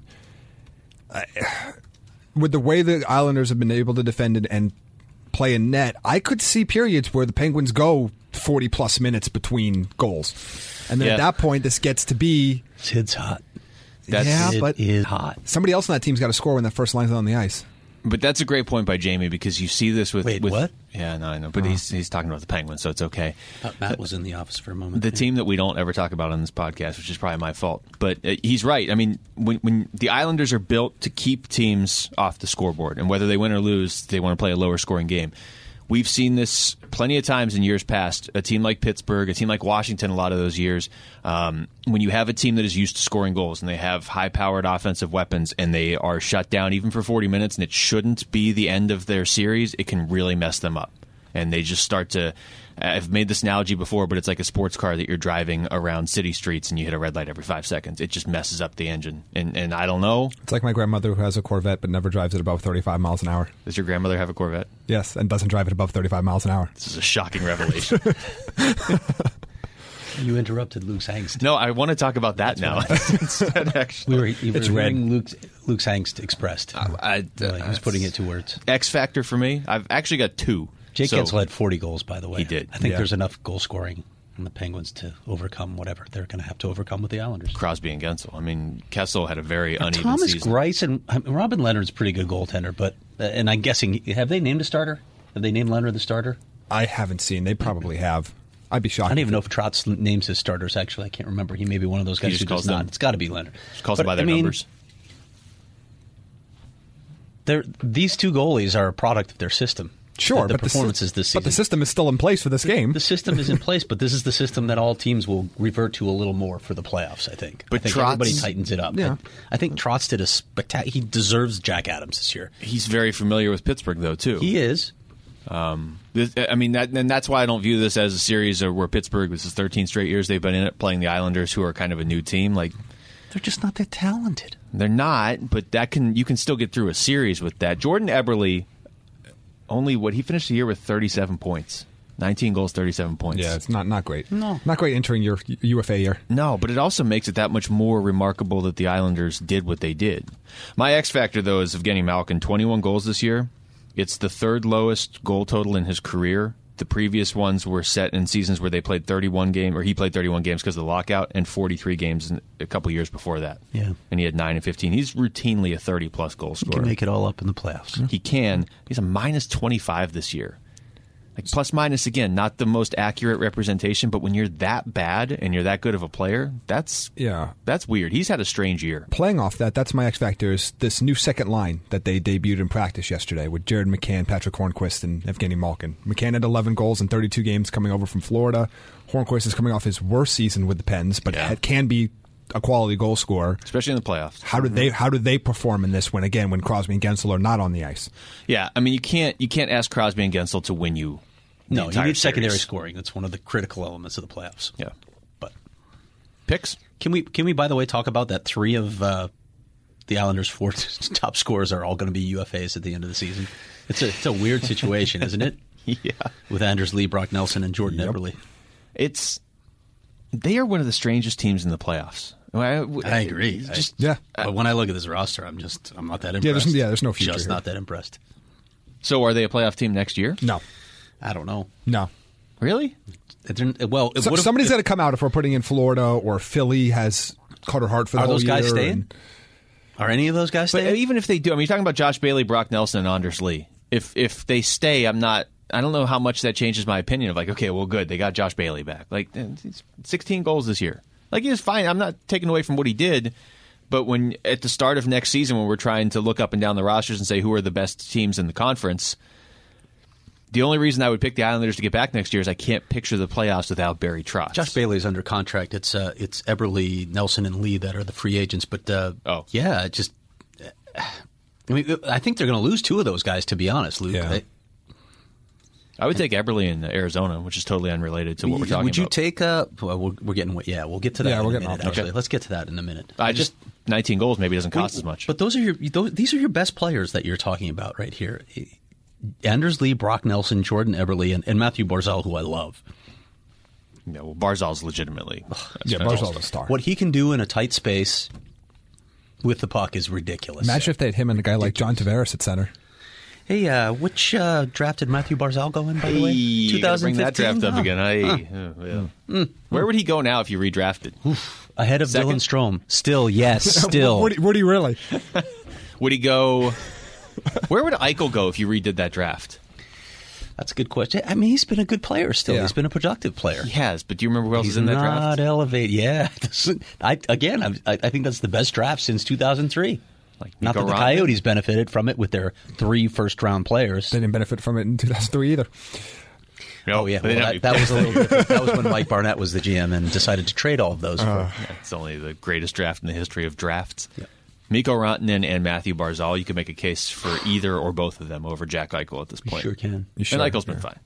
Speaker 4: With the way the Islanders have been able to defend and play in net, I could see periods where the Penguins go 40-plus minutes between goals. And then at that point, this gets to be...
Speaker 3: It's hot.
Speaker 4: But
Speaker 3: it is hot.
Speaker 4: Somebody else on that team's got to score when that first line's on the ice.
Speaker 2: But that's a great point by Jamie, because you see this with...
Speaker 3: Wait, what?
Speaker 2: Yeah, no, I know. But he's talking about the Penguins, so it's okay.
Speaker 3: Matt was in the office for a moment.
Speaker 2: The team that we don't ever talk about on this podcast, which is probably my fault. But he's right. I mean, when the Islanders are built to keep teams off the scoreboard, and whether they win or lose, they want to play a lower scoring game. We've seen this plenty of times in years past. A team like Pittsburgh, a team like Washington, a lot of those years, when you have a team that is used to scoring goals and they have high-powered offensive weapons and they are shut down even for 40 minutes and it shouldn't be the end of their series, it can really mess them up. And they just start to... I've made this analogy before, but it's like a sports car that you're driving around city streets and you hit a red light every 5 seconds. It just messes up the engine. And I don't know.
Speaker 4: It's like my grandmother who has a Corvette but never drives it above 35 miles an hour.
Speaker 2: Does your grandmother have a Corvette?
Speaker 4: Yes, and doesn't drive it above 35 miles an hour.
Speaker 2: This is a shocking revelation.
Speaker 3: You interrupted Luke's angst.
Speaker 2: No, I want to talk about that now. Instead, actually.
Speaker 3: It's hearing Luke's angst expressed. He was putting it to words.
Speaker 2: X factor for me, I've actually got 2.
Speaker 3: Jake Guentzel had 40 goals, by the way.
Speaker 2: He did.
Speaker 3: I think there's enough goal scoring in the Penguins to overcome whatever they're going to have to overcome with the Islanders.
Speaker 2: Crosby and Guentzel. I mean, Kessel had a very uneven
Speaker 3: Thomas
Speaker 2: season.
Speaker 3: Greiss and Robin Leonard's a pretty good goaltender, but and I'm guessing, have they named a starter? Have they named Leonard the starter?
Speaker 4: I haven't seen. They probably have. I'd be shocked.
Speaker 3: I don't even know if Trotz names his starters, actually. I can't remember. He may be one of those guys who does not. It's got to be Leonard.
Speaker 2: Just calls them by their numbers.
Speaker 3: These two goalies are a product of their system.
Speaker 4: Sure,
Speaker 3: the performances this season.
Speaker 4: But the system is still in place for this game.
Speaker 3: The system is in place, but this is the system that all teams will revert to a little more for the playoffs, I think.
Speaker 2: But
Speaker 3: I think everybody tightens it up.
Speaker 4: Yeah.
Speaker 3: I think Trotz did a spectacular... He deserves Jack Adams this year.
Speaker 2: He's very familiar with Pittsburgh, though, too.
Speaker 3: He is.
Speaker 2: I mean, and that's why I don't view this as a series where Pittsburgh, this is 13 straight years they've been in it, playing the Islanders, who are kind of a new team. Like,
Speaker 3: they're just not that talented.
Speaker 2: They're not, but you can still get through a series with that. Jordan Eberle... he finished the year with 37 points. 19 goals, 37 points.
Speaker 4: Yeah, it's not great.
Speaker 3: No.
Speaker 4: Not great entering your UFA year.
Speaker 2: No, but it also makes it that much more remarkable that the Islanders did what they did. My X factor, though, is Evgeny Malkin. 21 goals this year. It's the third lowest goal total in his career. The previous ones were set in seasons where they played 31 games, or he played 31 games because of the lockout, and 43 games a couple years before that.
Speaker 3: Yeah.
Speaker 2: And he had 9 and 15. He's routinely a 30-plus goal
Speaker 3: He
Speaker 2: scorer.
Speaker 3: can make it all up in the playoffs.
Speaker 2: He can. He's a minus 25 this year. Like plus minus, again, not the most accurate representation, but when you're that bad and you're that good of a player, that's weird. He's had a strange year.
Speaker 4: Playing off that, that's my X factor is this new second line that they debuted in practice yesterday with Jared McCann, Patrick Hornquist, and Evgeny Malkin. McCann had 11 goals in 32 games coming over from Florida. Hornquist is coming off his worst season with the Pens, but can be a quality goal scorer,
Speaker 2: especially in the playoffs.
Speaker 4: How do they perform in this when Crosby and Gensel are not on the ice?
Speaker 2: Yeah, I mean you can't ask Crosby and Gensel to win you.
Speaker 3: No, you need secondary
Speaker 2: series.
Speaker 3: scoring. That's one of the critical elements of the playoffs.
Speaker 2: Yeah,
Speaker 3: but
Speaker 2: picks.
Speaker 3: Can we by the way talk about that? 3 of the Islanders' 4 top scorers are all going to be UFAs at the end of the season. It's a weird situation, isn't it?
Speaker 2: Yeah,
Speaker 3: with Anders Lee, Brock Nelson, and Jordan Eberle.
Speaker 2: They are one of the strangest teams in the playoffs.
Speaker 3: I agree. But when I look at this roster, I'm not that impressed.
Speaker 4: There's no future.
Speaker 3: Just
Speaker 4: here.
Speaker 3: not that impressed.
Speaker 2: So are they a playoff team next year?
Speaker 4: No.
Speaker 3: I don't know.
Speaker 4: No.
Speaker 2: Really?
Speaker 3: Well,
Speaker 4: somebody's got to come out if we're putting in Florida or Philly has Carter Hart for the whole year.
Speaker 3: Are those guys staying? Are any of those guys staying?
Speaker 2: But even if they do, I mean, you're talking about Josh Bailey, Brock Nelson, and Anders Lee. If they stay, I don't know how much that changes my opinion of like, okay, well, good, they got Josh Bailey back. Like, 16 goals this year. Like, he was fine. I'm not taking away from what he did. But when at the start of next season, when we're trying to look up and down the rosters and say who are the best teams in the conference, the only reason I would pick the Islanders to get back next year is I can't picture the playoffs without Barry Trotz.
Speaker 3: Josh Bailey's under contract. It's Eberle, Nelson, and Lee that are the free agents. But I think they're going to lose 2 of those guys. To be honest, Luke.
Speaker 4: Yeah.
Speaker 2: I would take Eberle in Arizona, which is totally unrelated to what we're talking about.
Speaker 3: Would you take? We'll get to that. in a minute. Actually, let's get to that in a minute.
Speaker 2: 19 goals maybe doesn't cost as much.
Speaker 3: But these are your best players that you're talking about right here. Anders Lee, Brock Nelson, Jordan Eberle, and Matthew Barzal, who I love.
Speaker 2: Yeah, well, Barzal's legitimately.
Speaker 4: Barzal's a star.
Speaker 3: What he can do in a tight space with the puck is ridiculous.
Speaker 4: Imagine if they had him and a guy like John Tavares at center.
Speaker 3: Hey, which draft did Matthew Barzal go in, by the way? 2015?
Speaker 2: Bring that draft up again. Where would he go now if you redrafted?
Speaker 3: Ahead of Dylan Strome. Still, yes, still.
Speaker 4: Would he really?
Speaker 2: Would he go... Where would Eichel go if you redid that draft?
Speaker 3: That's a good question. I mean, he's been a good player still. Yeah. He's been a productive player.
Speaker 2: He has, but do you remember who else is in that draft?
Speaker 3: Not elevate. Yeah. I think that's the best draft since 2003. Not that the Coyotes benefited from it with their 3 first-round players.
Speaker 4: They didn't benefit from it in 2003 either.
Speaker 3: Oh, yeah. Well, that was a little different. That was when Mike Barnett was the GM and decided to trade all of those.
Speaker 2: It's only the greatest draft in the history of drafts. Yeah. Mikko Rantanen and Matthew Barzal, you can make a case for either or both of them over Jack Eichel at this point.
Speaker 3: You sure can.
Speaker 2: And Eichel's been fine.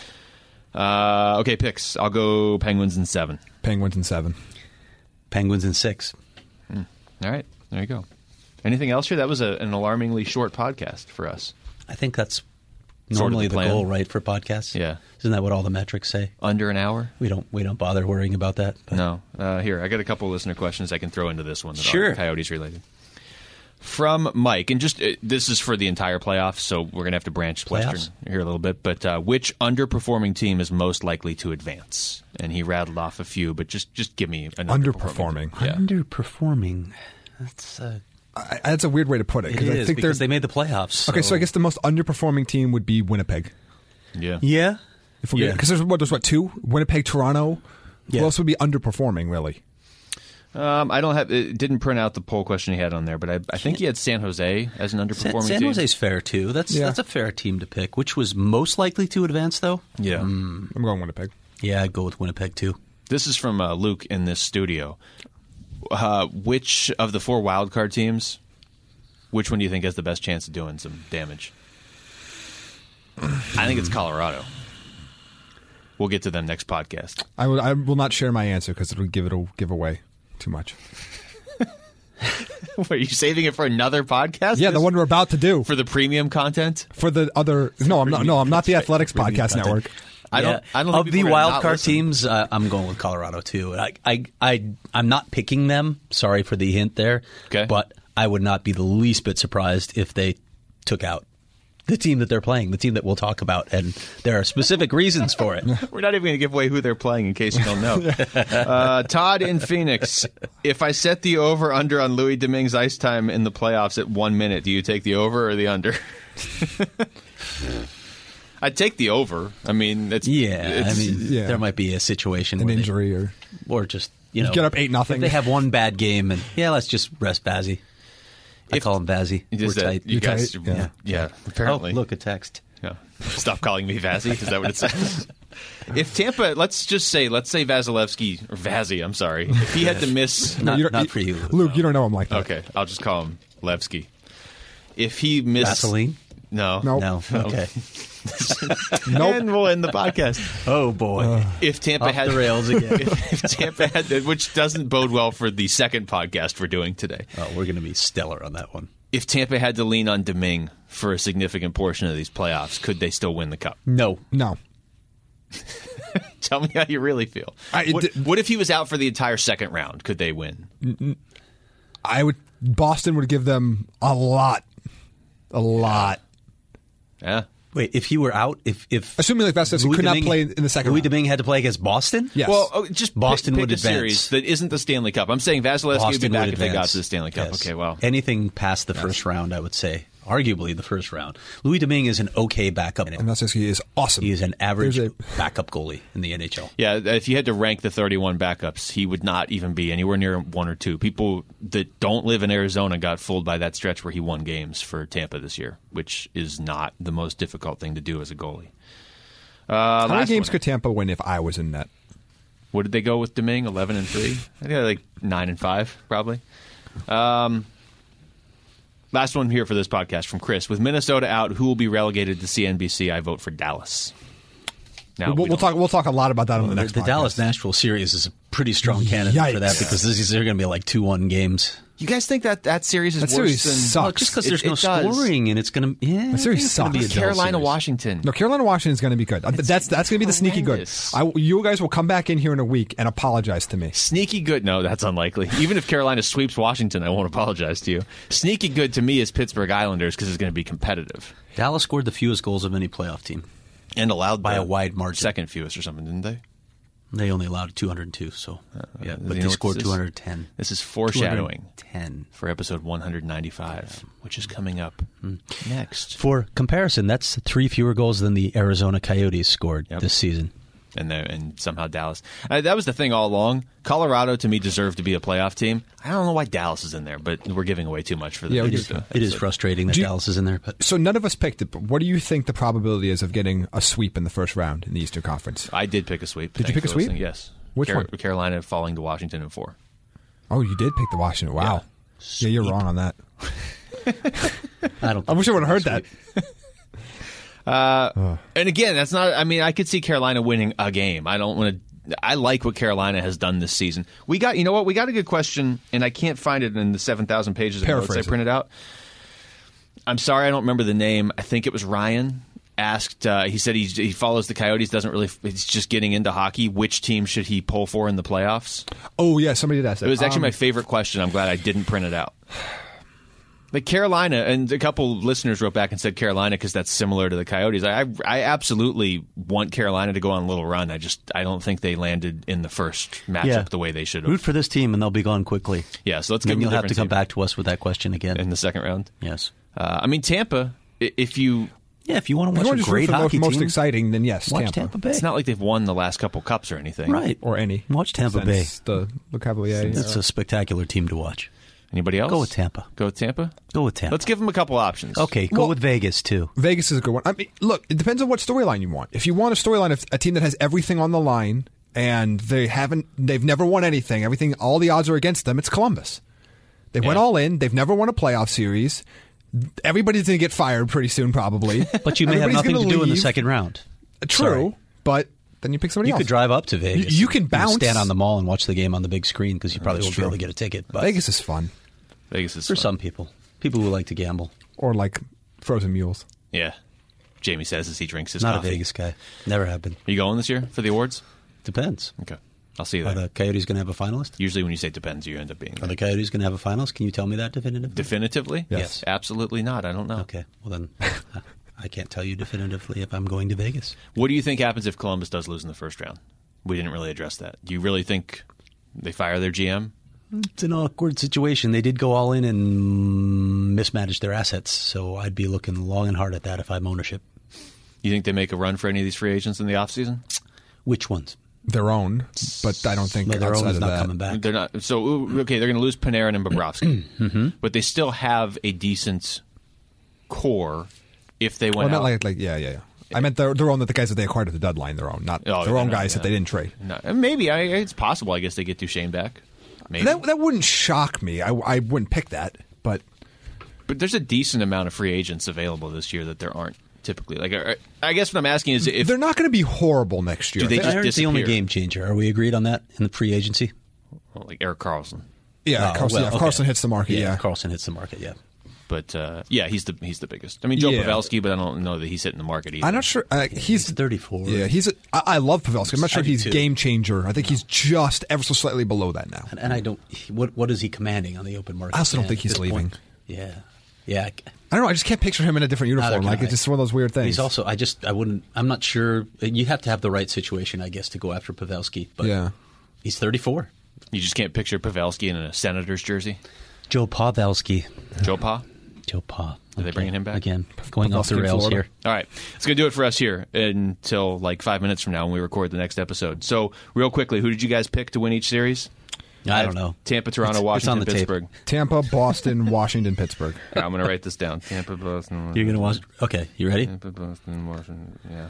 Speaker 2: Okay, picks. I'll go Penguins in 7.
Speaker 4: Penguins in 7.
Speaker 3: Penguins in 6.
Speaker 2: All right, there you go. Anything else here? That was an alarmingly short podcast for us.
Speaker 3: I think that's normally the goal, right, for podcasts?
Speaker 2: Yeah.
Speaker 3: Isn't that what all the metrics say?
Speaker 2: Under an hour?
Speaker 3: We don't bother worrying about that.
Speaker 2: But. No. Here, I got a couple of listener questions I can throw into this one that are Coyotes related. From Mike, and just this is for the entire playoffs, so we're going to have to branch Western here a little bit. But which underperforming team is most likely to advance? And he rattled off a few, but just give me an underperforming.
Speaker 3: Underperforming.
Speaker 4: That's a weird way to put it.
Speaker 3: I think they made the playoffs.
Speaker 4: Okay, so I guess the most underperforming team would be Winnipeg.
Speaker 2: Yeah.
Speaker 3: Yeah.
Speaker 4: Because there's 2? Winnipeg, Toronto. Yeah. Who else would be underperforming, really?
Speaker 2: I don't have. It didn't print out the poll question he had on there, but I think he had San Jose as an underperforming team.
Speaker 3: San Jose's fair too. That's a fair team to pick. Which was most likely to advance, though?
Speaker 2: Yeah,
Speaker 4: I'm going Winnipeg.
Speaker 3: Yeah, I'd go with Winnipeg too.
Speaker 2: This is from Luke in this studio. Which of the 4 wildcard teams? Which one do you think has the best chance of doing some damage? I think it's Colorado. We'll get to them next podcast.
Speaker 4: I will not share my answer because it'll give away too much.
Speaker 2: Are you saving it for another podcast?
Speaker 4: Yeah, the one we're about to do
Speaker 2: for the premium content.
Speaker 4: For the other, no, I'm not. No, I'm not the Athletics Podcast Network.
Speaker 2: I don't think
Speaker 3: of
Speaker 2: people
Speaker 3: the
Speaker 2: are gonna
Speaker 3: wild
Speaker 2: not
Speaker 3: card
Speaker 2: listen.
Speaker 3: teams, I'm going with Colorado too. I'm not picking them. Sorry for the hint there.
Speaker 2: Okay.
Speaker 3: But I would not be the least bit surprised if they took out the team that they're playing, the team that we'll talk about, and there are specific reasons for it.
Speaker 2: We're not even going to give away who they're playing in case you don't know. Todd in Phoenix. If I set the over-under on Louis Domingue's ice time in the playoffs at 1 minute, do you take the over or the under? I'd take the over. I mean,
Speaker 3: there might be a situation,
Speaker 4: An
Speaker 3: where
Speaker 4: injury
Speaker 3: or just
Speaker 4: get up 8-0.
Speaker 3: If they have one bad game, and let's just rest Vazzy. I call him Vazzy. We're tight.
Speaker 2: You guys,
Speaker 4: tight?
Speaker 2: yeah. Apparently.
Speaker 3: Oh, look, a text.
Speaker 2: Yeah. Stop calling me Vazzy. Is that what it says? If Tampa, let's say Vasilevsky or Vazzy. I'm sorry. If he had to miss,
Speaker 3: Not for you,
Speaker 4: Luke. You don't know him like that.
Speaker 2: okay, I'll just call him Levsky. If he missed,
Speaker 3: Vaseline?
Speaker 2: no,
Speaker 4: Nope.
Speaker 3: No. Okay.
Speaker 4: Nope.
Speaker 2: and we'll end the podcast.
Speaker 3: Oh boy.
Speaker 2: If Tampa
Speaker 3: Off
Speaker 2: had
Speaker 3: the rails again.
Speaker 2: if Tampa had, which doesn't bode well for the second podcast we're doing today.
Speaker 3: Oh, we're going to be stellar on that one.
Speaker 2: If Tampa had to lean on Domingue for a significant portion of these playoffs, could they still win the cup?
Speaker 3: No.
Speaker 2: Tell me how you really feel. What if he was out for the entire second round? Could they win?
Speaker 4: Boston would give them a lot.
Speaker 2: Yeah.
Speaker 3: Wait, if he were out, if
Speaker 4: Assuming like Vasilevsky could not play in the second
Speaker 3: Louis
Speaker 4: round.
Speaker 3: Domingue had to play against Boston?
Speaker 4: Yes.
Speaker 2: Well, just
Speaker 3: Boston
Speaker 2: pick
Speaker 3: would
Speaker 2: a
Speaker 3: advance.
Speaker 2: series that isn't the Stanley Cup. I'm saying Vasilevsky would be
Speaker 3: Boston
Speaker 2: back
Speaker 3: would
Speaker 2: if they got
Speaker 3: advance.
Speaker 2: to the Stanley Cup.
Speaker 3: Yes.
Speaker 2: Okay, well.
Speaker 3: Anything past the first round, I would say. Arguably the first round. Louis Domingue is an okay backup.
Speaker 4: And Vasilevsky is awesome.
Speaker 3: He is an average
Speaker 4: There's
Speaker 3: backup goalie in the NHL.
Speaker 2: Yeah, if you had to rank the 31 backups, he would not even be anywhere near one or two. People that don't live in Arizona got fooled by that stretch where he won games for Tampa this year, which is not the most difficult thing to do as a goalie.
Speaker 4: How many games could Tampa win if I was in net?
Speaker 2: What did they go with Domingue? 11-3. I think like 9-5, probably. Last one here for this podcast from Chris. With Minnesota out, who will be relegated to CNBC? I vote for Dallas. Now
Speaker 4: We'll talk a lot about that on the next
Speaker 3: The
Speaker 4: podcast.
Speaker 3: Dallas-Nashville series is a pretty strong candidate
Speaker 4: Yikes.
Speaker 3: for that because these are going to be like 2-1 games.
Speaker 2: You guys think that series is
Speaker 4: That
Speaker 2: worse
Speaker 4: series
Speaker 2: than
Speaker 4: sucks.
Speaker 3: Well, just because there's
Speaker 2: It
Speaker 3: no
Speaker 2: does.
Speaker 3: scoring and it's going to
Speaker 4: That series sucks.
Speaker 3: be a dull
Speaker 2: Carolina,
Speaker 3: series.
Speaker 2: Washington.
Speaker 4: No, Carolina, Washington is going to be good. That's going to be the sneaky good.
Speaker 2: horrendous.
Speaker 4: You guys will come back in here in a week and apologize to me.
Speaker 2: Sneaky good. No, that's unlikely. Even if Carolina sweeps Washington, I won't apologize to you. Sneaky good to me is Pittsburgh Islanders because it's going to be competitive
Speaker 3: Dallas scored the fewest goals of any playoff team.
Speaker 2: and allowed
Speaker 3: By
Speaker 2: the
Speaker 3: a wide margin.
Speaker 2: second fewest or something, didn't they?
Speaker 3: They only allowed 202, so yeah, but
Speaker 2: you know
Speaker 3: they
Speaker 2: what
Speaker 3: scored
Speaker 2: this is?
Speaker 3: 210.
Speaker 2: This is foreshadowing
Speaker 3: 210.
Speaker 2: for episode 195, which is coming up next.
Speaker 3: For comparison, that's 3 fewer goals than the Arizona Coyotes scored this season.
Speaker 2: And somehow Dallas. That was the thing all along. Colorado, to me, deserved to be a playoff team. I don't know why Dallas is in there, but we're giving away too much for them.
Speaker 4: Yeah, we
Speaker 3: It is frustrating that Dallas is in there, but
Speaker 4: So none of us picked it, but what do you think the probability is of getting a sweep in the first round in the Eastern Conference?
Speaker 2: I did pick a sweep.
Speaker 4: Did you
Speaker 2: Thanks
Speaker 4: pick a
Speaker 2: for
Speaker 4: sweep?
Speaker 2: listening. Yes.
Speaker 4: Which one?
Speaker 2: Carolina falling to Washington in 4.
Speaker 4: Oh, you did pick the Washington. Wow. Yeah, you're wrong on that.
Speaker 3: I
Speaker 4: wish I would have heard that.
Speaker 2: And again, that's not. I mean, I could see Carolina winning a game. I don't want to. I like what Carolina has done this season. We got, you know what? We got a good question, and I can't find it in the 7,000 pages of notes I
Speaker 4: Paraphrase it.
Speaker 2: printed out. I'm sorry, I don't remember the name. I think it was Ryan asked. He said he follows the Coyotes. Doesn't really. He's just getting into hockey. Which team should he pull for in the playoffs?
Speaker 4: Oh, yeah, somebody did ask that.
Speaker 2: It was actually my favorite question. I'm glad I didn't print it out. Like Carolina, and a couple listeners wrote back and said Carolina because that's similar to the Coyotes. I absolutely want Carolina to go on a little run. I don't think they landed in the first matchup the way they should have.
Speaker 3: root for this team and they'll be gone quickly.
Speaker 2: Yeah, so let's give
Speaker 3: Then
Speaker 2: them
Speaker 3: you'll
Speaker 2: a
Speaker 3: have to
Speaker 2: different
Speaker 3: come
Speaker 2: team
Speaker 3: back to us with that question again.
Speaker 2: in the second round.
Speaker 3: Yes.
Speaker 2: I mean, Tampa, if you...
Speaker 3: Yeah, if you want to
Speaker 4: If you
Speaker 3: watch
Speaker 4: want
Speaker 3: a
Speaker 4: to
Speaker 3: great
Speaker 4: root for the
Speaker 3: hockey
Speaker 4: most
Speaker 3: team,
Speaker 4: exciting, then yes,
Speaker 3: watch Tampa Bay.
Speaker 2: It's not like they've won the last couple cups or anything.
Speaker 3: Right.
Speaker 4: Or any.
Speaker 3: Watch Tampa Bay.
Speaker 4: Since the Le Cavalier.
Speaker 3: It's a spectacular team to watch.
Speaker 2: Anybody else?
Speaker 3: Go with Tampa.
Speaker 2: Go with Tampa?
Speaker 3: Go with Tampa.
Speaker 2: Let's give them a couple options.
Speaker 3: Okay, go
Speaker 4: Well-
Speaker 3: with Vegas, too.
Speaker 4: Vegas is a good one. I mean, look, it depends on what storyline you want. If you want a storyline of a team that has everything on the line and they've never won anything, all the odds are against them, it's Columbus. They went all in. They've never won a playoff series. Everybody's going to get fired pretty soon, probably.
Speaker 3: But you may have
Speaker 4: Everybody's
Speaker 3: nothing to
Speaker 4: gonna
Speaker 3: do in the
Speaker 4: leave.
Speaker 3: second round.
Speaker 4: True,
Speaker 3: Sorry.
Speaker 4: but then you pick somebody
Speaker 3: You
Speaker 4: else.
Speaker 3: could drive up to Vegas.
Speaker 4: You can
Speaker 3: and
Speaker 4: bounce.
Speaker 3: stand on the mall and watch the game on the big screen because you probably
Speaker 4: That's
Speaker 3: won't be able
Speaker 4: true.
Speaker 3: to get a ticket. But
Speaker 4: Vegas is fun.
Speaker 2: Vegas is
Speaker 3: for
Speaker 2: fun.
Speaker 3: some people who like to gamble.
Speaker 4: Or like frozen mules.
Speaker 2: Yeah. Jamie says as he drinks his
Speaker 3: Not
Speaker 2: coffee.
Speaker 3: a Vegas guy. Never have been.
Speaker 2: Are you going this year for the awards?
Speaker 3: Depends.
Speaker 2: Okay. I'll see you
Speaker 3: Are
Speaker 2: there.
Speaker 3: the Coyotes going to have a finalist?
Speaker 2: Usually when you say depends, you end up being
Speaker 3: Are
Speaker 2: there.
Speaker 3: the Coyotes going to have a finalist? Can you tell me that definitively?
Speaker 2: Definitively?
Speaker 3: Yes.
Speaker 2: Absolutely not. I don't know.
Speaker 3: Okay. Well, then I can't tell you definitively if I'm going to Vegas.
Speaker 2: What do you think happens if Columbus does lose in the first round? We didn't really address that. Do you really think they fire their GM?
Speaker 3: It's an awkward situation. They did go all in and mismanage their assets, so I'd be looking long and hard at that if I'm ownership.
Speaker 2: You think they make a run for any of these free agents in the offseason?
Speaker 3: Which ones?
Speaker 4: Their own, but I don't think
Speaker 3: No, their
Speaker 4: outside
Speaker 3: own's
Speaker 4: of
Speaker 3: not
Speaker 4: that.
Speaker 3: coming back.
Speaker 2: They're not. So, okay, they're going to lose Panarin and Bobrovsky. But they still have a decent core if they
Speaker 4: Well,
Speaker 2: went
Speaker 4: not
Speaker 2: out.
Speaker 4: like yeah. I meant their own, that the guys that they acquired at the deadline, their own, not
Speaker 2: Oh,
Speaker 4: their own
Speaker 2: no,
Speaker 4: guys that
Speaker 2: yeah.
Speaker 4: they didn't trade.
Speaker 2: No, maybe. It's possible, I guess, they get Duchesne back. Maybe.
Speaker 4: That wouldn't shock me. I wouldn't pick that, but
Speaker 2: But there's a decent amount of free agents available this year that there aren't typically. Like, I guess what I'm asking is if
Speaker 4: they're not going to be horrible next year.
Speaker 2: Do they just
Speaker 3: Panarin's the only
Speaker 2: disappear?
Speaker 3: game changer. Are we agreed on that in the free agency?
Speaker 2: well, like Eric Carlson.
Speaker 4: yeah,
Speaker 3: Oh,
Speaker 4: Carlson,
Speaker 3: well,
Speaker 4: if
Speaker 3: okay.
Speaker 4: Carlson hits the market, yeah.
Speaker 3: If Carlson hits the market, yeah.
Speaker 2: But yeah, he's the biggest. I mean, Joe
Speaker 4: Yeah.
Speaker 2: Pavelski, but I don't know that he's hitting the market either.
Speaker 4: I'm not sure. He's
Speaker 3: He's 34.
Speaker 4: Yeah, I love Pavelski. I'm not sure he's
Speaker 3: 92.
Speaker 4: game changer. I think he's just ever so slightly below that now.
Speaker 3: And I don't. What is he commanding on the open market?
Speaker 4: I also don't
Speaker 3: at
Speaker 4: think he's
Speaker 3: this
Speaker 4: leaving.
Speaker 3: point? Yeah.
Speaker 4: I don't know. I just can't picture him in a different uniform.
Speaker 3: Neither
Speaker 4: Like
Speaker 3: can
Speaker 4: it's
Speaker 3: I.
Speaker 4: just one of those weird things.
Speaker 3: He's also. I wouldn't. I'm not sure. You have to have the right situation, I guess, to go after Pavelski. But
Speaker 4: Yeah.
Speaker 3: he's 34.
Speaker 2: You just can't picture Pavelski in a Senators jersey.
Speaker 3: Joe Pavelski.
Speaker 2: Joe Pa.
Speaker 3: Joe Pa.
Speaker 2: Are they bringing him back?
Speaker 3: again? Going off
Speaker 4: Pavelski
Speaker 3: the
Speaker 4: in
Speaker 3: rails
Speaker 4: Florida.
Speaker 3: here.
Speaker 2: All right, it's going to do it for us here until like 5 minutes from now when we record the next episode. So, real quickly, who did you guys pick to win each series?
Speaker 3: I don't know.
Speaker 2: Tampa, Toronto,
Speaker 3: It's
Speaker 2: Washington,
Speaker 3: on the tape.
Speaker 2: Pittsburgh.
Speaker 4: Tampa, Boston, Washington, Pittsburgh.
Speaker 2: All right, I'm going to write this down. Tampa, Boston.
Speaker 3: You're gonna watch. Okay, you ready?
Speaker 2: Tampa, Boston, Washington. Yeah.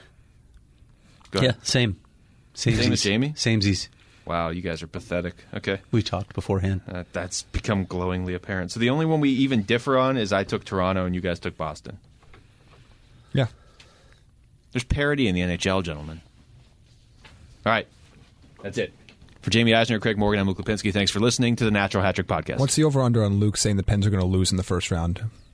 Speaker 2: Go
Speaker 3: Yeah,
Speaker 2: ahead.
Speaker 3: same.
Speaker 2: Same as Jamie?
Speaker 3: Samesies.
Speaker 2: Wow, you guys are pathetic. Okay.
Speaker 3: We talked beforehand.
Speaker 2: That's become glowingly apparent. So the only one we even differ on is I took Toronto and you guys took Boston.
Speaker 4: Yeah.
Speaker 2: There's parity in the NHL, gentlemen. All right. That's it. For Jamie Eisner, Craig Morgan, I'm Luke Lipinski. Thanks for listening to the Natural Hat Trick Podcast.
Speaker 4: What's the over-under on Luke saying the Pens are going to lose in the first round?